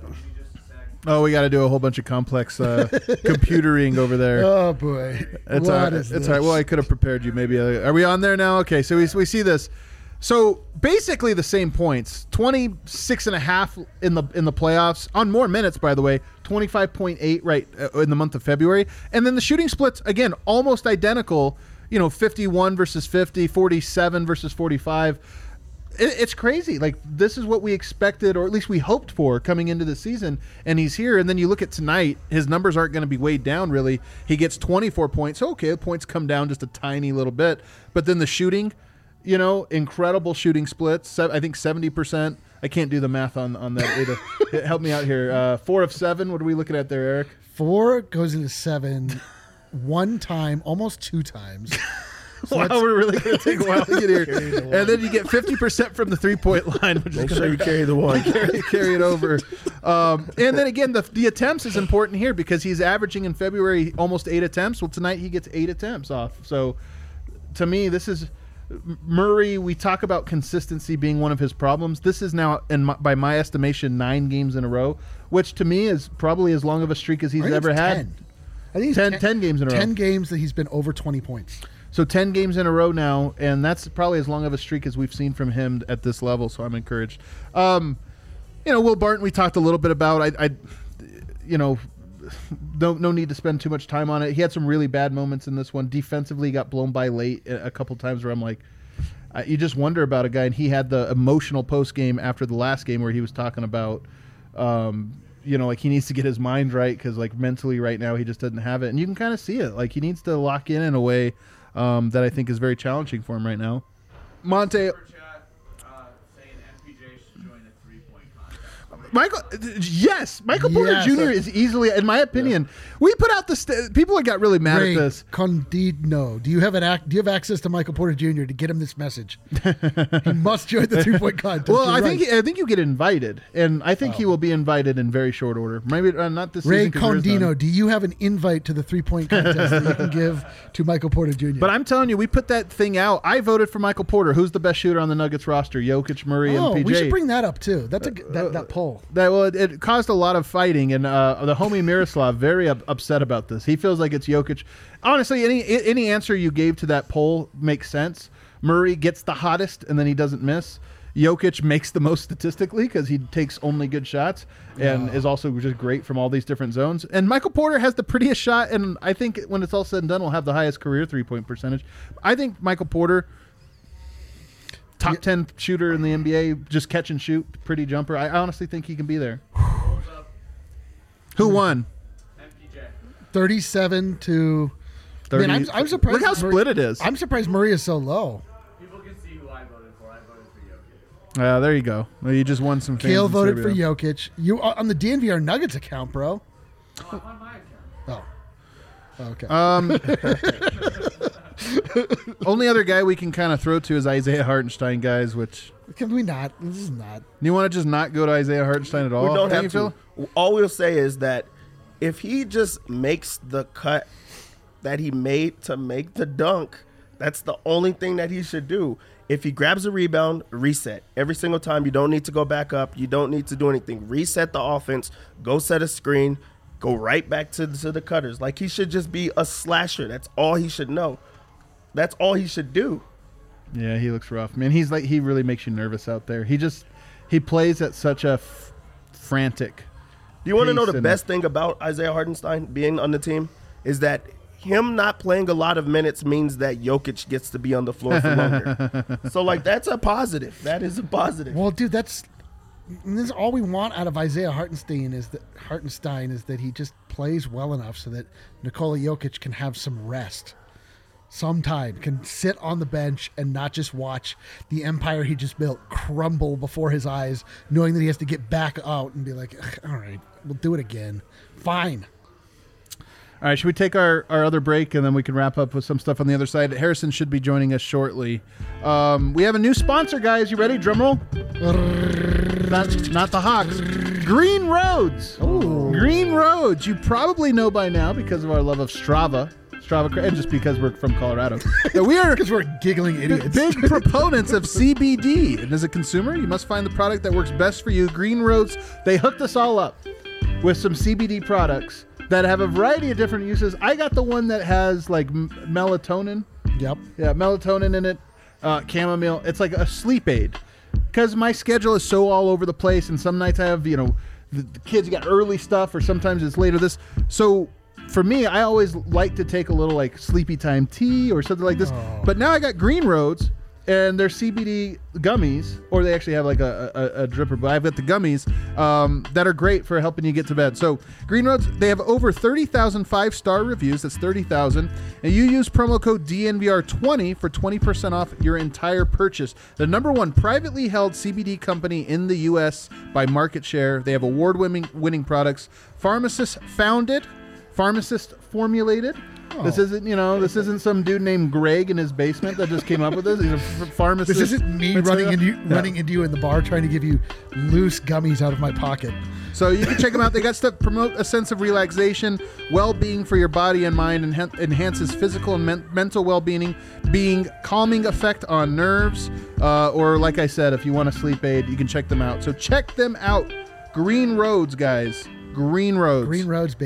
Oh, we got to do a whole bunch of complex computering over there. Oh boy, it's all right. Well, I could have prepared you. Maybe are we on there now? Okay, so we see this. So basically the same points, 26.5 in the playoffs on more minutes, by the way, 25.8 right in the month of February. And then the shooting splits, again, almost identical, 51 versus 50, 47 versus 45. It's crazy. Like, this is what we expected, or at least we hoped for coming into the season, and he's here. And then you look at tonight, his numbers aren't going to be weighed down, really. He gets 24 points. Okay, the points come down just a tiny little bit. But then the shooting, incredible shooting splits. I think 70%. I can't do the math on that. Help me out here. 4 of 7. What are we looking at there, Eric? 4 goes into 7 one time, almost 2 times. So wow, we're really going to take a while to get here. And then you get 50% from the 3-point line. Which Make sure you carry the one. carry it over. And then again, the attempts is important here because he's averaging in February almost 8 attempts. Well, tonight he gets 8 attempts off. So to me, this is Murray. We talk about consistency being one of his problems. This is now, by my estimation, 9 games in a row, which to me is probably as long of a streak as he's ever had. 10. I think 10 games in a row. 10 games that he's been over 20 points. So 10 games in a row now, and that's probably as long of a streak as we've seen from him at this level, so I'm encouraged. Will Barton, we talked a little bit about. no need to spend too much time on it. He had some really bad moments in this one. Defensively, got blown by late a couple times where I'm like, you just wonder about a guy. And he had the emotional post game after the last game where he was talking about, like he needs to get his mind right because like mentally right now he just doesn't have it. And you can kind of see it. Like he needs to lock in a way that I think is very challenging for him right now. Monte. Michael Porter Jr. is easily, in my opinion, we put out the people got really mad Ray at this. Condino, do you have access to Michael Porter Jr. to get him this message? He must join the 3-point contest. Well, I think you get invited, and I think he will be invited in very short order. Maybe not this Ray season. Condino, do you have an invite to the 3-point contest that you can give to Michael Porter Jr.? But I'm telling you, we put that thing out. I voted for Michael Porter. Who's the best shooter on the Nuggets roster? Jokic, Murray, and PJ. We should bring that up too. That's that poll. It caused a lot of fighting, and the homie Miroslav very upset about this. He feels like it's Jokic. Honestly, any answer you gave to that poll makes sense. Murray gets the hottest, and then he doesn't miss. Jokic makes the most statistically because he takes only good shots and is also just great from all these different zones. And Michael Porter has the prettiest shot, and I think when it's all said and done, will have the highest career 3-point percentage. I think Michael Porter, top 10 shooter in the NBA, just catch and shoot, pretty jumper. I honestly think he can be there. Who won? 37 to 30. Man, I'm surprised. Look how split it is. I'm surprised Murray is so low. People can see who I voted for. I voted for Jokic. There you go. Well, you just won some fans. Kale in voted Serbia. for Jokic. You on the DNVR Nuggets account, bro. No, I'm on my account. Okay. Only other guy we can kind of throw to is Isaiah Hartenstein, guys, which... Can we not? This is not. You want to just not go to Isaiah Hartenstein at all? We don't have you, to. Phil? All we'll say is that if he just makes the cut that he made to make the dunk, that's the only thing that he should do. If he grabs a rebound, reset. Every single time, you don't need to go back up. You don't need to do anything. Reset the offense. Go set a screen. Go right back to the cutters. Like, he should just be a slasher. That's all he should know. That's all he should do. Yeah, he looks rough, man. He really makes you nervous out there. He plays at such a frantic. Do you want to know the best thing about Isaiah Hartenstein being on the team? Is that him not playing a lot of minutes means that Jokic gets to be on the floor for longer. So, like, that's a positive. That is a positive. Well, dude, this is all we want out of Isaiah Hartenstein is that he just plays well enough so that Nikola Jokic can have some rest. Sometime can sit on the bench and not just watch the empire he just built crumble before his eyes, knowing that he has to get back out and be like, all right, we'll do it again. Fine. All right, should we take our other break and then we can wrap up with some stuff on the other side? Harrison should be joining us shortly. We have a new sponsor, guys. You ready? Drum roll. Not the Hawks. Green Roads. Ooh. Green Roads. You probably know by now because of our love of Strava, and just because we're from Colorado, that we are Because we're giggling idiots. big proponents of CBD. And as a consumer, you must find the product that works best for you. Green Roads, they hooked us all up with some CBD products that have a variety of different uses. I got the one that has like melatonin. Yep. Yeah, melatonin in it, chamomile. It's like a sleep aid. Because my schedule is so all over the place, and some nights I have, the kids got early stuff, or sometimes it's later this. So for me, I always like to take a little like sleepy time tea or something like this. Oh. But now I got Green Roads, and they're CBD gummies, or they actually have like a dripper, but I've got the gummies that are great for helping you get to bed. So Green Roads, they have over 30,000 5-star reviews. That's 30,000. And you use promo code DNVR20 for 20% off your entire purchase. The #1 privately held CBD company in the U.S. by market share. They have award-winning products. Pharmacist founded, pharmacist formulated. This isn't some dude named Greg in his basement that just came up with this. He's a pharmacist. This isn't me running into you in the bar trying to give you loose gummies out of my pocket. So you can check them out. They got stuff to promote a sense of relaxation, well-being for your body and mind, and enhances physical and mental well-being, calming effect on nerves, or like I said, if you want a sleep aid, you can check them out. So check them out. Green Roads, guys. Green Roads. Green Roads, baby.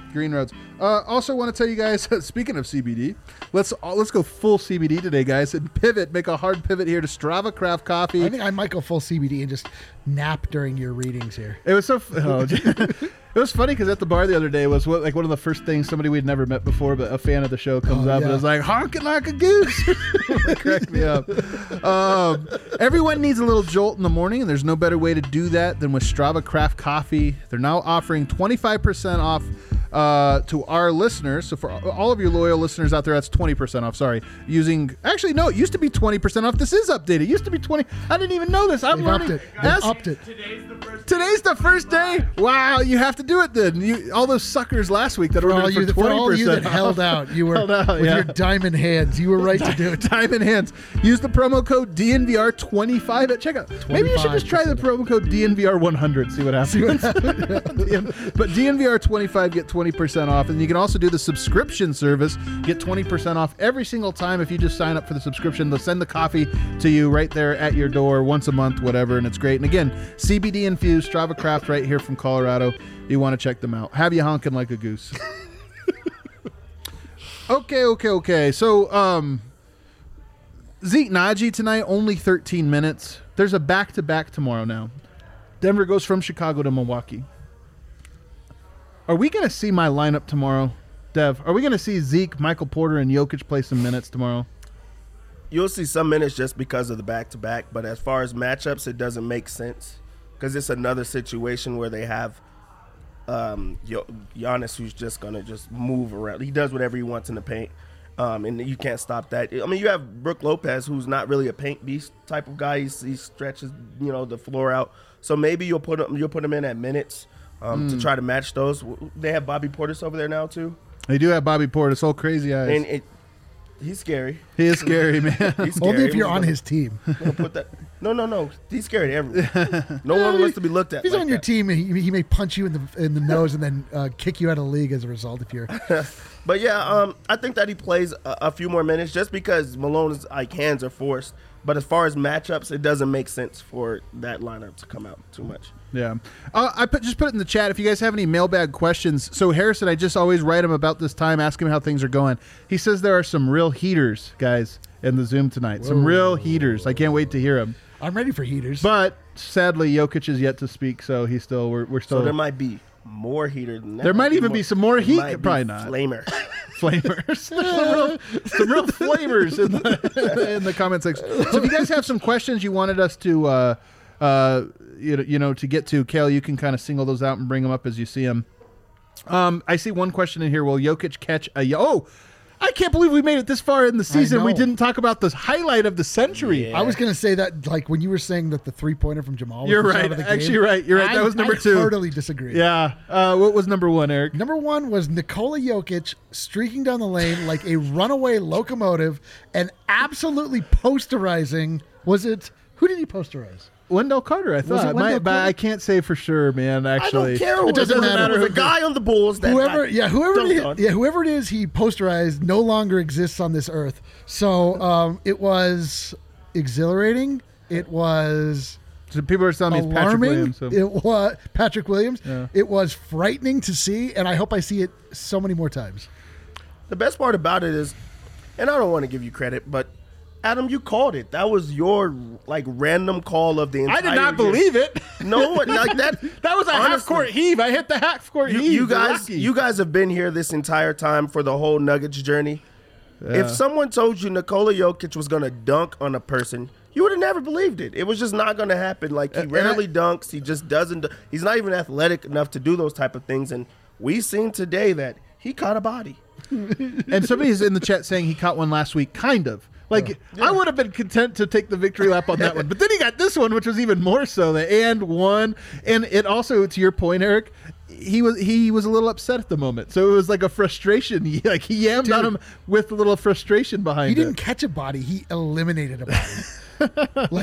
Green Roads. Also want to tell you guys, speaking of CBD, let's go full CBD today, guys, and pivot, make a hard pivot here to Strava Craft Coffee. I think I might go full CBD and just nap during your readings here. It was so it was funny because at the bar the other day was one of the first things somebody we'd never met before, but a fan of the show comes up and is like, honking like a goose. It cracked me up. Everyone needs a little jolt in the morning, and there's no better way to do that than with Strava Craft Coffee. They're now offering 25% off to our listeners. So for all of your loyal listeners out there, that's 20% off. Sorry. Actually, no, it used to be 20% off. This is updated. It used to be 20. I didn't even know this. I'm learning. They've upped it. Today's the first day. Wow, you have to do it then. All those suckers last week that ordered for 20%. For all you that held out, you were with your diamond hands. You were right to do it. Diamond hands. Use the promo code DNVR25 at checkout. Maybe you should just try the promo code DNVR100. See what happens. But DNVR25 get 20% off, and you can also do the subscription service. Get 20% off every single time if you just sign up for the subscription. They'll send the coffee to you right there at your door once a month, whatever, and it's great. And again, CBD infused Strava Craft right here from Colorado. You want to check them out. Have you honking like a goose? Okay. So, Zeke Naji tonight, only 13 minutes. There's a back-to-back tomorrow now. Denver goes from Chicago to Milwaukee. Are we going to see my lineup tomorrow, Dev? Are we going to see Zeke, Michael Porter, and Jokic play some minutes tomorrow? You'll see some minutes just because of the back-to-back, but as far as matchups, it doesn't make sense because it's another situation where they have Giannis who's just going to just move around. He does whatever he wants in the paint, and you can't stop that. I mean, you have Brook Lopez, who's not really a paint beast type of guy. He stretches, the floor out. So maybe you'll put him in at minutes to try to match those. They have Bobby Portis over there now too. They do have Bobby Portis. All crazy eyes. And he's scary. He is scary, man. He's scary. Only if you're on his team. Put that. No. He's scary to everyone. No one wants to be looked at. If he's like on your that. team, he may punch you in the nose and then kick you out of the league as a result. If you're. But yeah, I think that he plays a few more minutes just because Malone's hands are forced. But as far as matchups, it doesn't make sense for that lineup to come out too much. Yeah. I just put it in the chat if you guys have any mailbag questions. So Harrison, I just always write him about this time, ask him how things are going. He says there are some real heaters, guys, in the Zoom tonight. Whoa. Some real heaters. I can't wait to hear them. I'm ready for heaters. But sadly, Jokic is yet to speak, so we're still. So there might be more heater than that. There might even be some more heat. Probably not. Flamer. Flamers. some real flamers in the comment section. So if you guys have some questions you wanted us to to get to, Kale, you can kind of single those out and bring them up as you see them. I see one question in here. Will Jokic catch I can't believe we made it this far in the season. We didn't talk about the highlight of the century. Yeah. I was going to say that, when you were saying that the 3-pointer from Jamal was You're the right. shot of the game. Actually, right. You're right. That was number 2. I totally disagree. Yeah. What was number 1, Eric? Number 1 was Nikola Jokic streaking down the lane like a runaway locomotive and absolutely posterizing. Who did he posterize? Wendell Carter, I thought. But I can't say for sure, man, actually. I don't care. It doesn't matter. It was a guy on the Bulls that whoever it is he posterized no longer exists on this earth. So it was exhilarating. It was so people are telling me it's Patrick Williams. So. It was Patrick Williams. Yeah. It was frightening to see, and I hope I see it so many more times. The best part about it is, and I don't want to give you credit, but Adam, you called it. That was your random call of the entire I did not year. believe it. No, like that. That was a half-court heave. I hit the half-court heave. You guys have been here this entire time for the whole Nuggets journey. Yeah. If someone told you Nikola Jokic was going to dunk on a person, you would have never believed it. It was just not going to happen. He rarely dunks. He just doesn't. He's not even athletic enough to do those type of things. And we've seen today that he caught a body. And somebody's in the chat saying he caught one last week, kind of. I would have been content to take the victory lap on that one. But then he got this one, which was even more so. The and one. And it also, to your point, Eric, he was a little upset at the moment. So it was like a frustration. He yammed on him with a little frustration behind it. He didn't catch a body. He eliminated a body.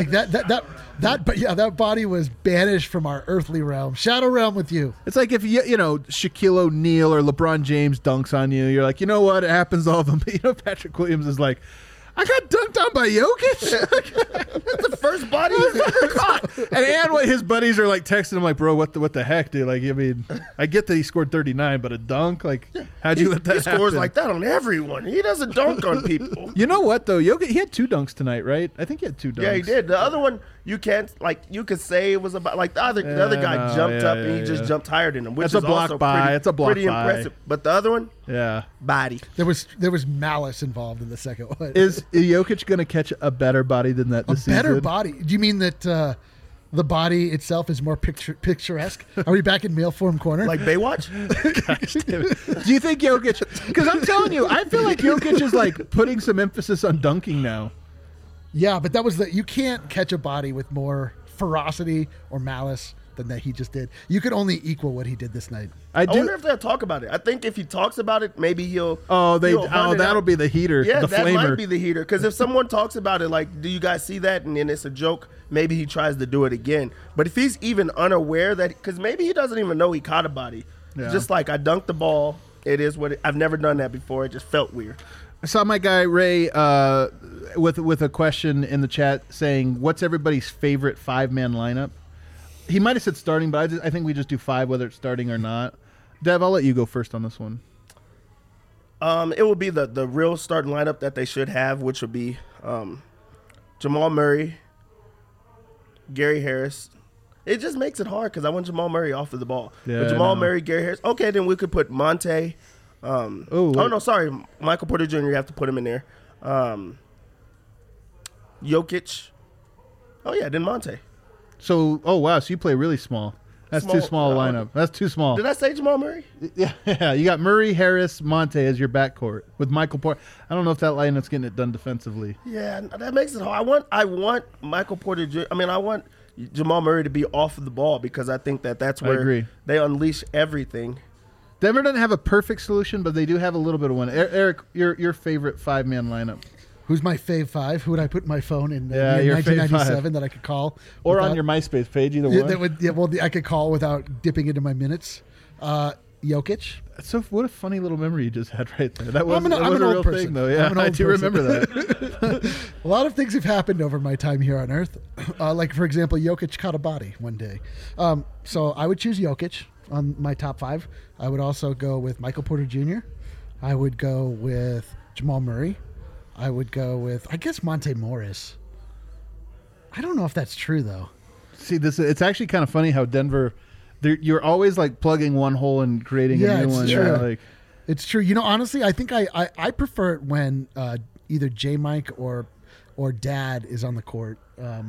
That body was banished from our earthly realm. Shadow realm with you. It's like if Shaquille O'Neal or LeBron James dunks on you, you're like, you know what? It happens to all of them. But Patrick Williams is like, I got dunked on by Jokic. That's the first body he's ever caught. And what his buddies are like texting him like, bro, what the heck, dude? Like, I mean, I get that he scored 39, but a dunk, like, how'd you let that He happen? scores like that on everyone. He doesn't dunk on people. You know what though? Jokic, he had 2 dunks tonight, right? I think he had 2 dunks. Yeah, he did. The other one, you can't like. You could say it was about like the other guy jumped up and he just jumped higher than him, which That's is a block also by. It's a block pretty by. impressive. But the other one, Yeah. body. There was malice involved in the second one. Is Jokic going to catch a better body than that a this better season? body? Do you mean that the body itself is more picturesque? Are we back in male form corner? Like Baywatch? Do you think Jokic? Because I'm telling you, I feel like Jokic is like putting some emphasis on dunking now. yeah, but that was you can't catch a body with more ferocity or malice than that he just did. You could only equal what he did this night. I I do. wonder if they'll talk about it. I think if he talks about it, maybe he'll. Oh, he'll hunt it that'll out. be the heater. Yeah, the that flamer. might be the heater. Because if someone talks about it, like, do you guys see that? And then it's a joke, maybe he tries to do it again. But if he's even unaware that, because maybe he doesn't even know he caught a body. Yeah. Just like, I dunked the ball. It is what I've never done that before. It just felt weird. I saw my guy Ray with a question in the chat saying, "What's everybody's favorite 5-man lineup?" He might have said starting, but I think we just do 5 whether it's starting or not. Dev, I'll let you go first on this one. It would be the real starting lineup that they should have, which would be Jamal Murray, Gary Harris. It just makes it hard because I want Jamal Murray off of the ball. Yeah, but I Jamal know. Murray, Gary Harris. Okay, then we could put Monte. wait. No, sorry, Michael Porter Jr. You have to put him in there. Jokic. Oh yeah, then Monte. So, oh wow, so you play really small. That's too small a lineup. That's too small. Did I say Jamal Murray? Yeah, you got Murray, Harris, Monte as your backcourt with Michael Porter. I don't know if that lineup's getting it done defensively. Yeah, that makes it hard. I want Michael Porter Jr. I want Jamal Murray to be off of the ball because I think that's I where agree. they unleash everything. Denver doesn't have a perfect solution, but they do have a little bit of one. Eric, your favorite 5-man lineup, Who's my fave 5? Who would I put in my phone in Yeah, your fave 1997 that I could call? or without- on your MySpace page, either Yeah, one. I could call without dipping into my minutes. Jokic. So what a funny little memory you just had right there. That was, I'm that was an a old real person. thing, though. Yeah, I'm an I old do person. remember that. A lot of things have happened over my time here on Earth. Like, for example, Jokic caught a body one day. So I would choose Jokic on my top 5. I would also go with Michael Porter Jr. I would go with Jamal Murray. I would go with, I guess, Monte Morris. I don't know if that's true, though. See, it's actually kind of funny how Denver, you're always like plugging one hole and creating Yeah, a new it's one. true. Yeah, like, It's true. You know, honestly, I think I prefer it when either J Mike or Dad is on the court.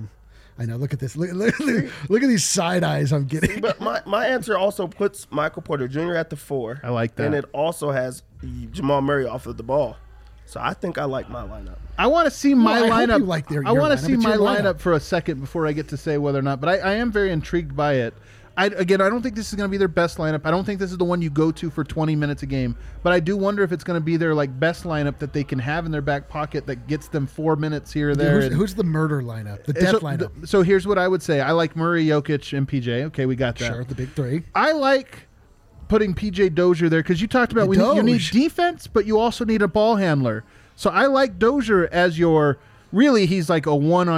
I know. Look at this. Look at these side eyes I'm getting. But my answer also puts Michael Porter Jr. at the 4. I like that. And it also has Jamal Murray off of the ball. So I think I like my lineup. I want to see my I hope lineup. you like your I want lineup. to see It's my your lineup. lineup for a second before I get to say whether or not. But I am very intrigued by it. I don't think this is going to be their best lineup. I don't think this is the one you go to for 20 minutes a game. But I do wonder if it's going to be their like best lineup that they can have in their back pocket that gets them 4 minutes here or there. Who's the murder lineup? The And death so, lineup? So here's what I would say. I like Murray, Jokic, and PJ. Okay, we got that. Sure, the big 3. I like putting PJ Dozier there because you talked about you need Doge. defense, but you also need a ball handler. So I like Dozier as your really he's like a 1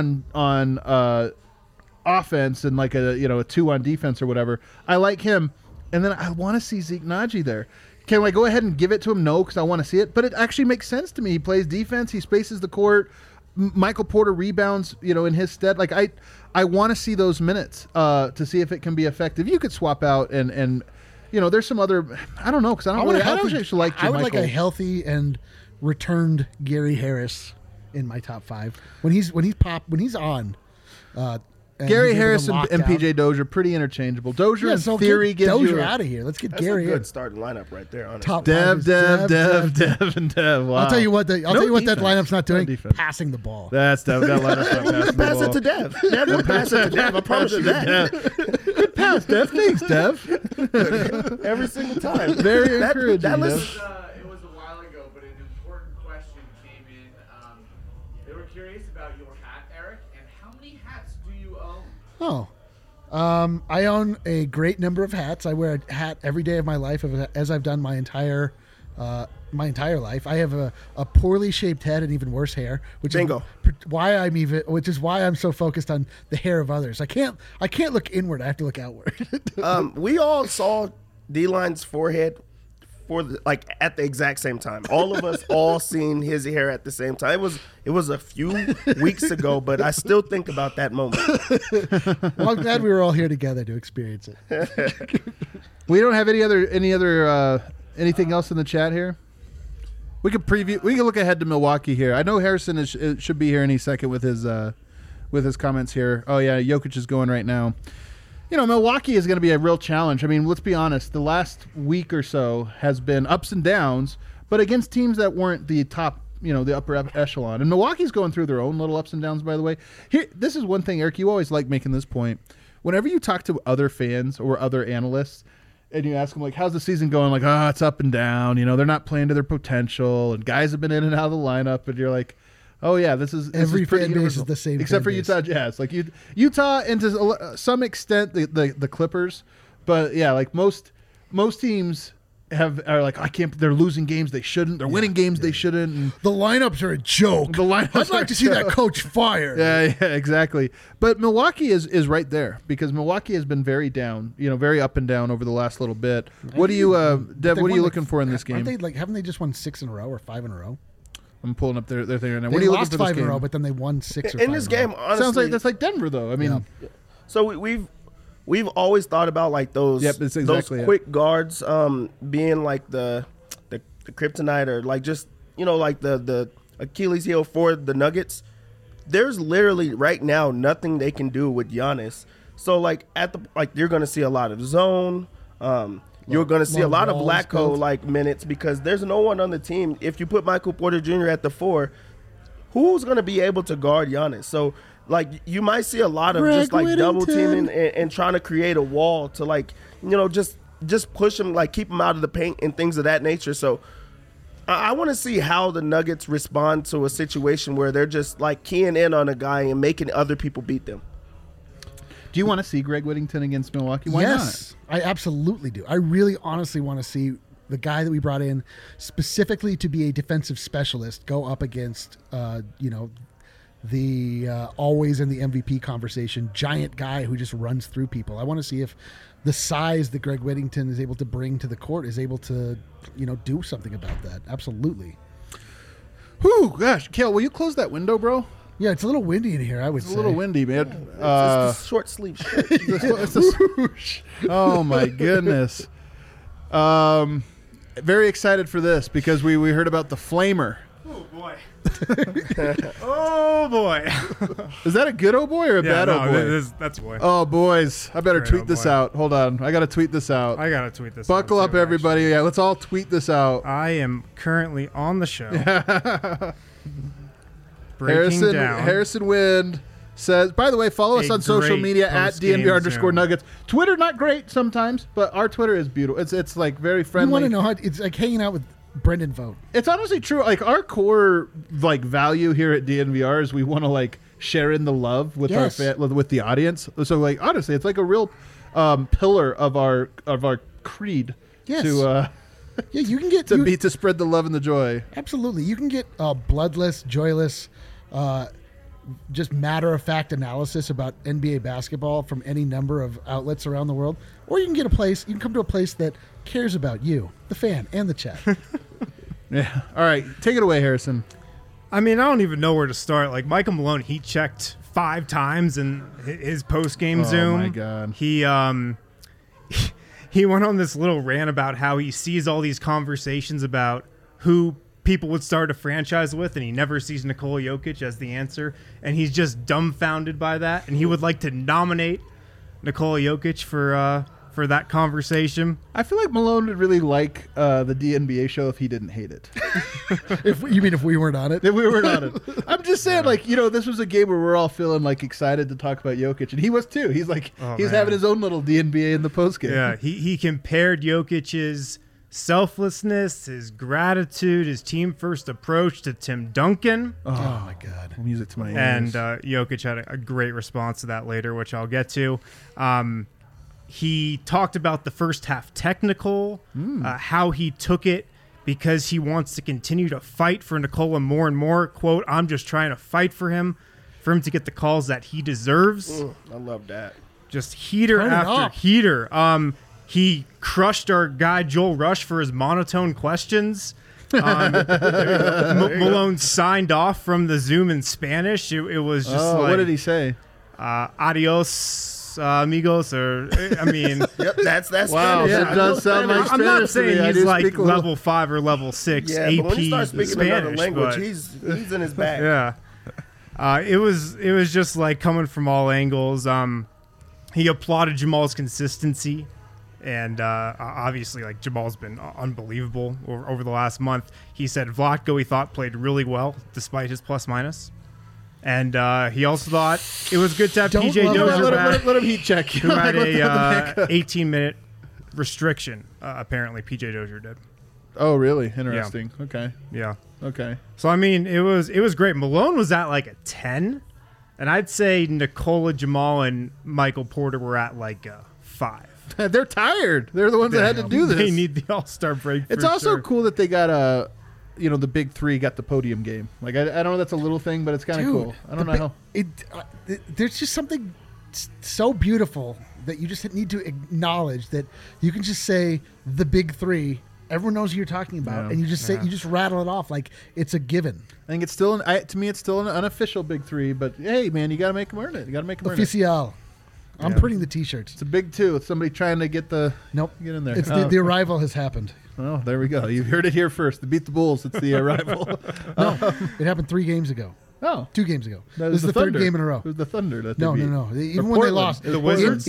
on offense and like a 2 on defense or whatever. I like him, and then I want to see Zeke Naji there. Can I go ahead and give it to him? No, because I want to see it. But it actually makes sense to me. He plays defense. He spaces the court. Michael Porter rebounds, in his stead. Like I want to see those minutes to see if it can be effective. You could swap out and there's some other. I don't know because I don't actually like. I would JaMychal. like a healthy and returned Gary Harris in my top 5 when he's on. And Gary he's able to Harris lock and down. PJ Dozier pretty interchangeable. Dozier Yeah, in so theory get gives Dozier you out of here. Let's get That's Gary a here. good starting lineup right there, honestly. Top Dev. 5 is Wow. I'll tell you what. I'll tell you what that defense. lineup's not No doing. defense. Passing the ball. That's Dev. That lineup's not passing the Pass ball. it to Dev. Dev will pass it to Dev. I promise you that. Good pass, Dev. Thanks, Dev. Every single time. Very encouraging. That Dev. list, It was a while ago, but an important question came in. They were curious about your hat, Eric, and how many hats do you own? I own a great number of hats. I wear a hat every day of my life, as I've done my entire my entire life. I have a poorly shaped head and even worse hair, which Bingo. which is why I'm so focused on the hair of others. I can't look inward. I have to look outward. We all saw D-Line's forehead at the exact same time. All of us all seen his hair at the same time. It was a few weeks ago, but I still think about that moment. Well, I'm glad we were all here together to experience it. We don't have anything else in the chat here. We could preview. We can look ahead to Milwaukee here. I know Harrison should be here any second with his comments here. Oh yeah, Jokic is going right now. Milwaukee is going to be a real challenge. I mean, let's be honest. The last week or so has been ups and downs, but against teams that weren't the top, the upper echelon. And Milwaukee's going through their own little ups and downs, by the way. This is one thing, Eric, you always like making this point. Whenever you talk to other fans or other analysts, and you ask them, like, how's the season going? Like, it's up and down. They're not playing to their potential, and guys have been in and out of the lineup, and you're like, oh yeah, this is every pretty fan base universal. is the same, except for fan base. Utah Jazz. Like Utah, and to some extent the Clippers, but yeah, like most teams are like, I can't. They're losing games they shouldn't. They're winning games they shouldn't. And The lineups are a joke. the lineups I'd like to see that coach fired. yeah, exactly. But Milwaukee is right there because Milwaukee has been very down, very up and down over the last little bit. What do you, Dev? What are you looking for in this game? Haven't they just won 6 in a row or 5 in a row? I'm pulling up their thing right now. They What are you lost looking for 5 this in a game? row, but then they won 6 or 5 In this in a row. game, honestly, Sounds like that's like Denver, though. I mean, So we've always thought about like those Yep, it's exactly those it. quick guards being like the kryptonite or like just like the Achilles heel for the Nuggets. There's literally right now nothing they can do with Giannis. So like you're gonna see a lot of zone. You're going to see a lot of Vlatko minutes because there's no one on the team. If you put Michael Porter Jr. at the 4, who's going to be able to guard Giannis? So like you might see a lot of just like double teaming and trying to create a wall to like just push him, like keep him out of the paint and things of that nature. So I want to see how the Nuggets respond to a situation where they're just like keying in on a guy and making other people beat them. do you want to see Greg Whittington against Milwaukee? Why Yes, I absolutely do. I really honestly want to see the guy that we brought in specifically to be a defensive specialist go up against, the always in the MVP conversation, giant guy who just runs through people. I want to see if the size that Greg Whittington is able to bring to the court is able to, do something about that. Absolutely. not? Whew, gosh, Kale, will you close that window, bro? Yeah, it's a little windy in here, I would It's say. a little windy, man. It's the short sleeve shirt. Oh my goodness. Very excited for this because we heard about the Flamer. Oh boy. Oh boy. Is that a good oh boy or a bad oh boy? That's a boy. Oh boys, I better Great tweet oh this boy. out. Hold on, I gotta tweet this out. I gotta tweet this. Buckle out up, too, everybody. Yeah, let's all tweet this out. actually. I am currently on the show. Breaking down. Harrison Wind says, by the way, follow us A on social great media at post-game DNVR_Nuggets. Twitter, not great sometimes, but our Twitter is beautiful. It's like very You friendly. want to know how it's like hanging out with Brendan Vogt. It's honestly true. Like our core like value here at DNVR is we want to like share in the love with Yes. with the audience. So like honestly, it's like a real pillar of our creed Yes. to Yeah, you can get you- to spread the love and the joy. Absolutely. You can get bloodless, joyless, just matter-of-fact analysis about NBA basketball from any number of outlets around the world. Or you can come to a place that cares about you, the fan, and the chat. Yeah. All right, take it away, Harrison. I mean, I don't even know where to start. Like Michael Malone, he checked 5 times in his post-game Zoom. Oh my God. He went on this little rant about how he sees all these conversations about who people would start a franchise with, and he never sees Nikola Jokic as the answer, and he's just dumbfounded by that, and he would like to nominate Nikola Jokic for that conversation. I feel like Malone would really like the DNBA show if he didn't hate it. If we weren't on it. If we were on it. I'm just saying, like, this was a game where we're all feeling like excited to talk about Jokic, and he was too. He's like, he's man. having his own little DNBA in the postgame. Yeah, he compared Jokic's selflessness, his gratitude, his team-first approach to Tim Duncan. Oh my God. Music to my ears. And Jokic had a great response to that later, which I'll get to. He talked about the first half technical, how he took it because he wants to continue to fight for Nikola more and more. Quote, I'm just trying to fight for him to get the calls that he deserves. I love that. Just heater Turn it after up. heater. He crushed our guy Joel Rush for his monotone questions. Malone signed off from the Zoom in Spanish. It was just like, what did he say? Adios, amigos, or I mean, Yep, that's Wow, Spanish. that I does know sound like Spanish. I'm not Spanish to me. saying I he's do like speak a little- level 5 or level 6 Yeah, AP but when you start speaking Spanish, another language, but- he's in his bag. yeah. It was just like coming from all angles. He applauded Jamal's consistency, and obviously, like Jamal's been unbelievable over the last month. He said Vlatko he thought played really well despite his plus minus, and he also thought it was good to have Don't PJ love Dozier that. back, Let him heat check. who had a 18-minute restriction. Apparently, PJ Dozier did. Oh, really? Interesting. Okay. Yeah. Okay. So I mean, it was great. Malone was at like a 10, and I'd say Nikola, Jamal, and Michael Porter were at like a 5. They're tired. They're the ones that had to do this. They need the All-Star break. It's for also sure. cool that they got the big three got the podium game. Like I don't know, that's a little thing, but it's kind of Dude, cool. I don't know how. There's just something so beautiful that you just need to acknowledge that you can just say the big three. Everyone knows who you're talking about, Yeah. and you just say you just rattle it off like it's a given. I think it's still to me it's still an unofficial big three, but hey man, you got to make them earn it. You got to make them earn it. Official. I'm Yeah. printing the T-shirts. It's a big two. It's somebody trying to get Nope. in there. It's Oh. the arrival has happened. Oh, there we go. You heard it here first. The Beat the Bulls. It's the arrival. No, it happened 3 games ago. Oh, 2 games ago. that This is the third Thunder. game in a row. It was the Thunder that No, they beat. no. Even Or when they Portland. lost, The Wizards?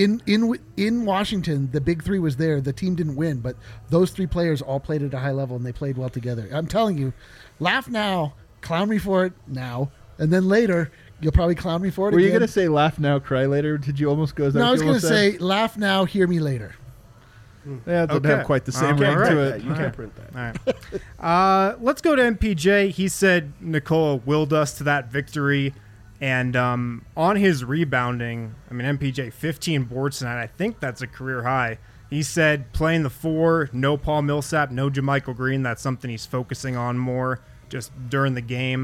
in Washington, the big 3 was there. The team didn't win, but those 3 players all played at a high level and they played well together. I'm telling you, laugh now, clown me for it now, and then later you'll probably clown me for it Were you again. going to say laugh now, cry later? Did you almost go? Is that No, what I was you going to almost say laugh now, hear me later. said? Yeah, it doesn't Okay. have quite the same You ring can't to print it. You can't print that. All right. Let's go to MPJ. He said Nikola willed us to that victory. And on his rebounding, I mean, MPJ, 15 boards tonight. I think that's a career high. He said playing the 4, no Paul Millsap, no JaMychal Green. That's something he's focusing on more just during the game.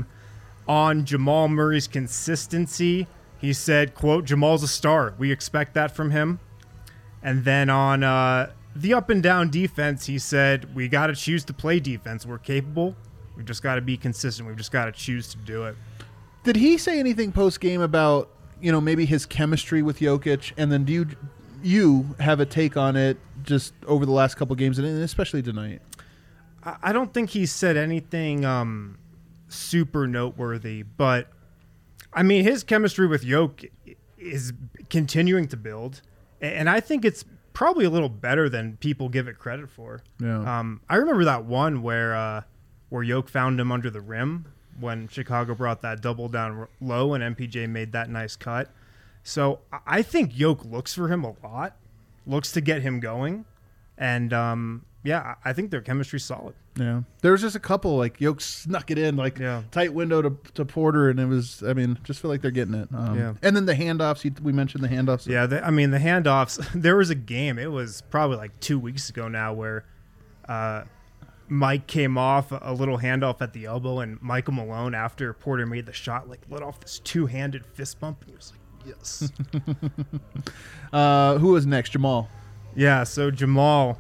On Jamal Murray's consistency, he said, quote, Jamal's a star. We expect that from him. And then on the up and down defense, he said, we got to choose to play defense. We're capable. We've just got to be consistent. We've just got to choose to do it. Did he say anything post game about maybe his chemistry with Jokic? And then do you have a take on it just over the last couple games and especially tonight? I don't think he said anything super noteworthy, but I mean, his chemistry with Jokic is continuing to build, and I think it's probably a little better than people give it credit for. Yeah. I remember that one where Jokic found him under the rim when Chicago brought that double down low and MPJ made that nice cut. So I think Jokic looks for him a lot, looks to get him going, and I think their chemistry's solid. Yeah. There was just a couple, like, Jokic snuck it in, like, tight window to Porter, and it was, just feel like they're getting it. Yeah. And then the handoffs, we mentioned the handoffs. Yeah, the handoffs, there was a game, it was probably like 2 weeks ago now, where Mike came off a little handoff at the elbow, and Michael Malone, after Porter made the shot, like, let off this 2-handed fist bump, and he was like, yes. Who was next? Jamal. Yeah, so Jamal,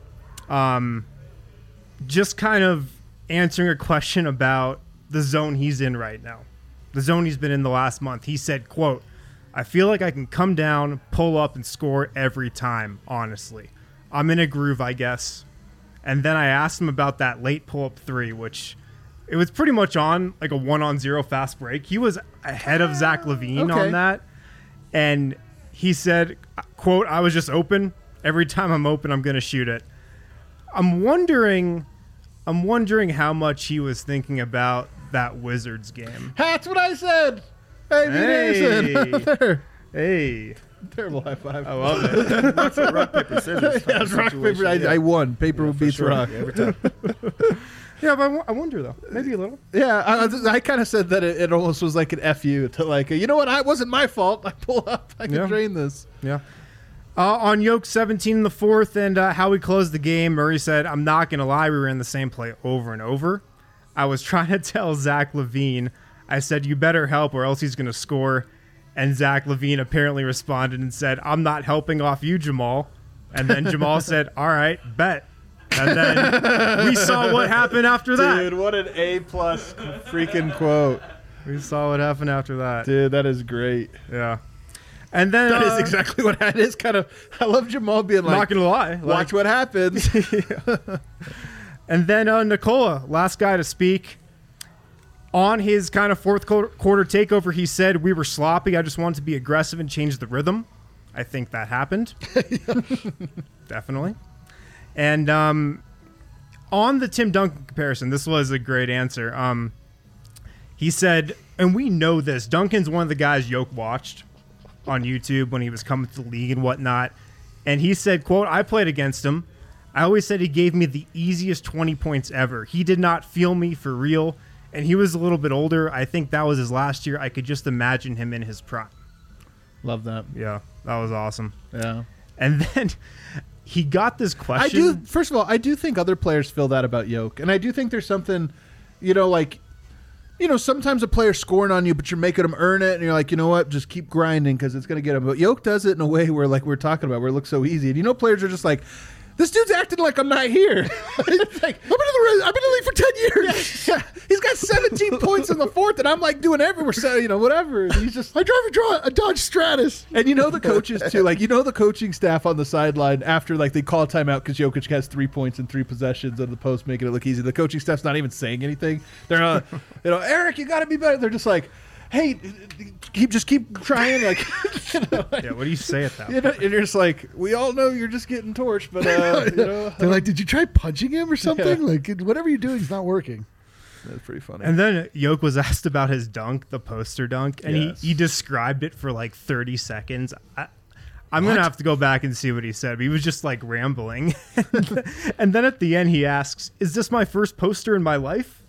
just kind of answering a question about the zone he's in right now, the zone he's been in the last month. He said, quote, I feel like I can come down, pull up, and score every time, honestly. I'm in a groove, I guess. And then I asked him about that late pull-up 3, which it was pretty much on like a 1-on-0 fast break. He was ahead of Zach LaVine on that. And he said, quote, I was just open. Every time I'm open, I'm going to shoot it. I'm wondering how much he was thinking about that Wizards game. That's what I said. Hey, Hey. Hey. Terrible high five. I love it. Rock, paper, scissors. Yeah, it was rock, paper. I won. Paper beats Sure. rock. Yeah, every time. Yeah, but I wonder, though. Maybe a little. Yeah, I kind of said that it almost was like an FU to like, you know what? It wasn't my fault. I pull up. I can Yeah. drain this. Yeah. On Yoke 17 in the fourth and how we closed the game, Murray said, I'm not going to lie, we were in the same play over and over. I was trying to tell Zach LaVine, I said, you better help or else he's going to score. And Zach LaVine apparently responded and said, I'm not helping off you, Jamal. And then Jamal said, all right, bet. And then we saw what happened after that. Dude, what an A-plus freaking quote. We saw what happened after that. Dude, that is great. Yeah. And then That is exactly what that is. Kind of, I love Jamal being like, not going to lie. watch what happens. And then Nikola, last guy to speak. On his kind of fourth quarter takeover, he said, we were sloppy. I just wanted to be aggressive and change the rhythm. I think that happened. Definitely. And on the Tim Duncan comparison, this was a great answer. He said, and we know this, Duncan's one of the guys Yoke watched on YouTube when he was coming to the league and whatnot. And he said, quote, I played against him. I always said he gave me the easiest 20 points ever. He did not feel me for real. And he was a little bit older. I think that was his last year. I could just imagine him in his prime. Love that. Yeah, that was awesome. Yeah. And then he got this question. First of all, I do think other players feel that about Yoke. And I do think there's something, sometimes a player's scoring on you, but you're making them earn it. And you're like, you know what? Just keep grinding because it's going to get them. But Yoke does it in a way where, like we're talking about, where it looks so easy. And, players are just like, this dude's acting like I'm not here. It's like, I've been in the league for 10 years. Yeah. He's got 17 points in the fourth, and I'm like doing everywhere, whatever. And he's just, I drive a Dodge Stratus. and the coaches too, the coaching staff on the sideline after they call a timeout because Jokic has 3 points in 3 possessions on the post, making it look easy. The coaching staff's not even saying anything. They're not, Eric, you got to be better. They're just like, hey, just keep trying. Yeah, what do you say at that? And you're just like, we all know you're just getting torched, but They're like, did you try punching him or something? Like, whatever you're doing is not working. that's pretty funny. And then Yoke was asked about his dunk, the poster dunk, and Yes. he described it for 30 seconds. I'm going to have to go back and see what he said, but he was just rambling. And then at the end, he asks, is this my first poster in my life?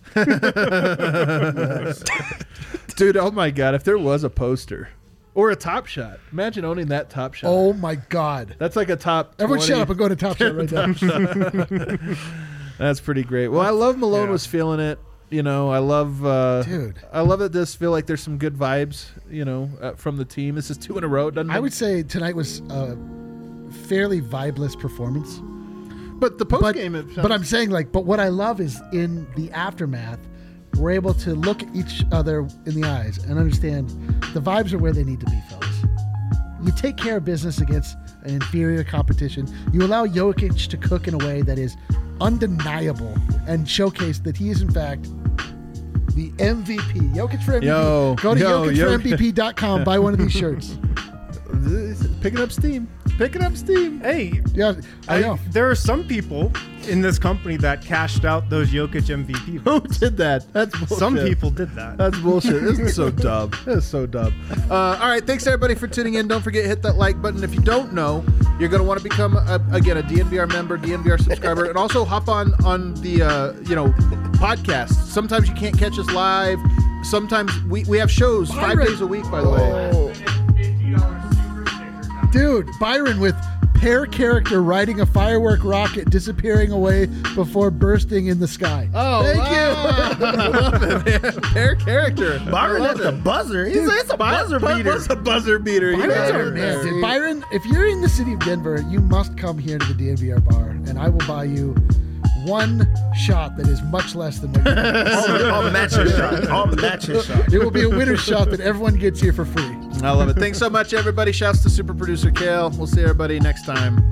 Dude, oh my God, if there was a poster or a Top Shot, imagine owning that Top Shot. Oh my God. That's like a top 20. Everyone shut up and go to Top Shot right now. That's pretty great. Well, I love Malone was feeling it. I love Dude. I love it does feel like there's some good vibes, from the team. This is 2 in a row. Doesn't I it? would say tonight was a fairly vibeless performance. But the post game But I'm saying but what I love is in the aftermath, we're able to look at each other in the eyes and understand the vibes are where they need to be, fellas. You take care of business against an inferior competition. You allow Jokic to cook in a way that is undeniable and showcase that he is in fact the MVP. Jokic for MVP. Go to JokicForMVP.com. Buy one of these shirts. picking up steam. Hey, Yeah, I know. there are some people in this company that cashed out those Jokic MVP Who votes. did that? That's bullshit. Some people did that. That's bullshit. This is so dumb. This is so dumb. All right. Thanks, everybody, for tuning in. Don't forget to hit that like button. If you don't know, you're going to want to become, a DNVR member, DNVR subscriber, and also hop on the, podcast. Sometimes you can't catch us live. Sometimes we have shows 5 days a week, by the way. Oh. $50 super sticker coming. Dude, Byron with pair character riding a firework rocket disappearing away before bursting in the sky. Oh, Thank you. I love it, man. Pair character. Byron I at love the it. buzzer. It's a buzzer beater. What's a buzzer beater? You Byron's know? our man. Dude, Byron, if you're in the city of Denver, you must come here to the DNVR bar, and I will buy you one shot that is much less than what you I'll match his shot. I'll match his shot. It will be a winner's shot that everyone gets here for free. I love it. Thanks so much, everybody. Shouts to super producer Kale. We'll see everybody next time.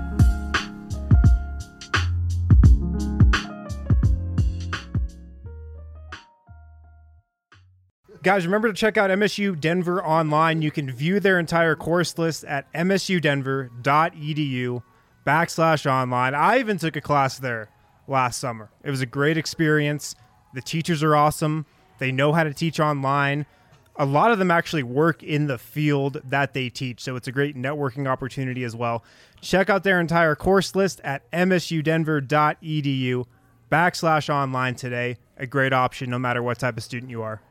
Guys, remember to check out MSU Denver online. You can view their entire course list at msudenver.edu/online. I even took a class there last summer. It was a great experience. The teachers are awesome. They know how to teach online. A lot of them actually work in the field that they teach, so it's a great networking opportunity as well. Check out their entire course list at msudenver.edu/online today. A great option no matter what type of student you are.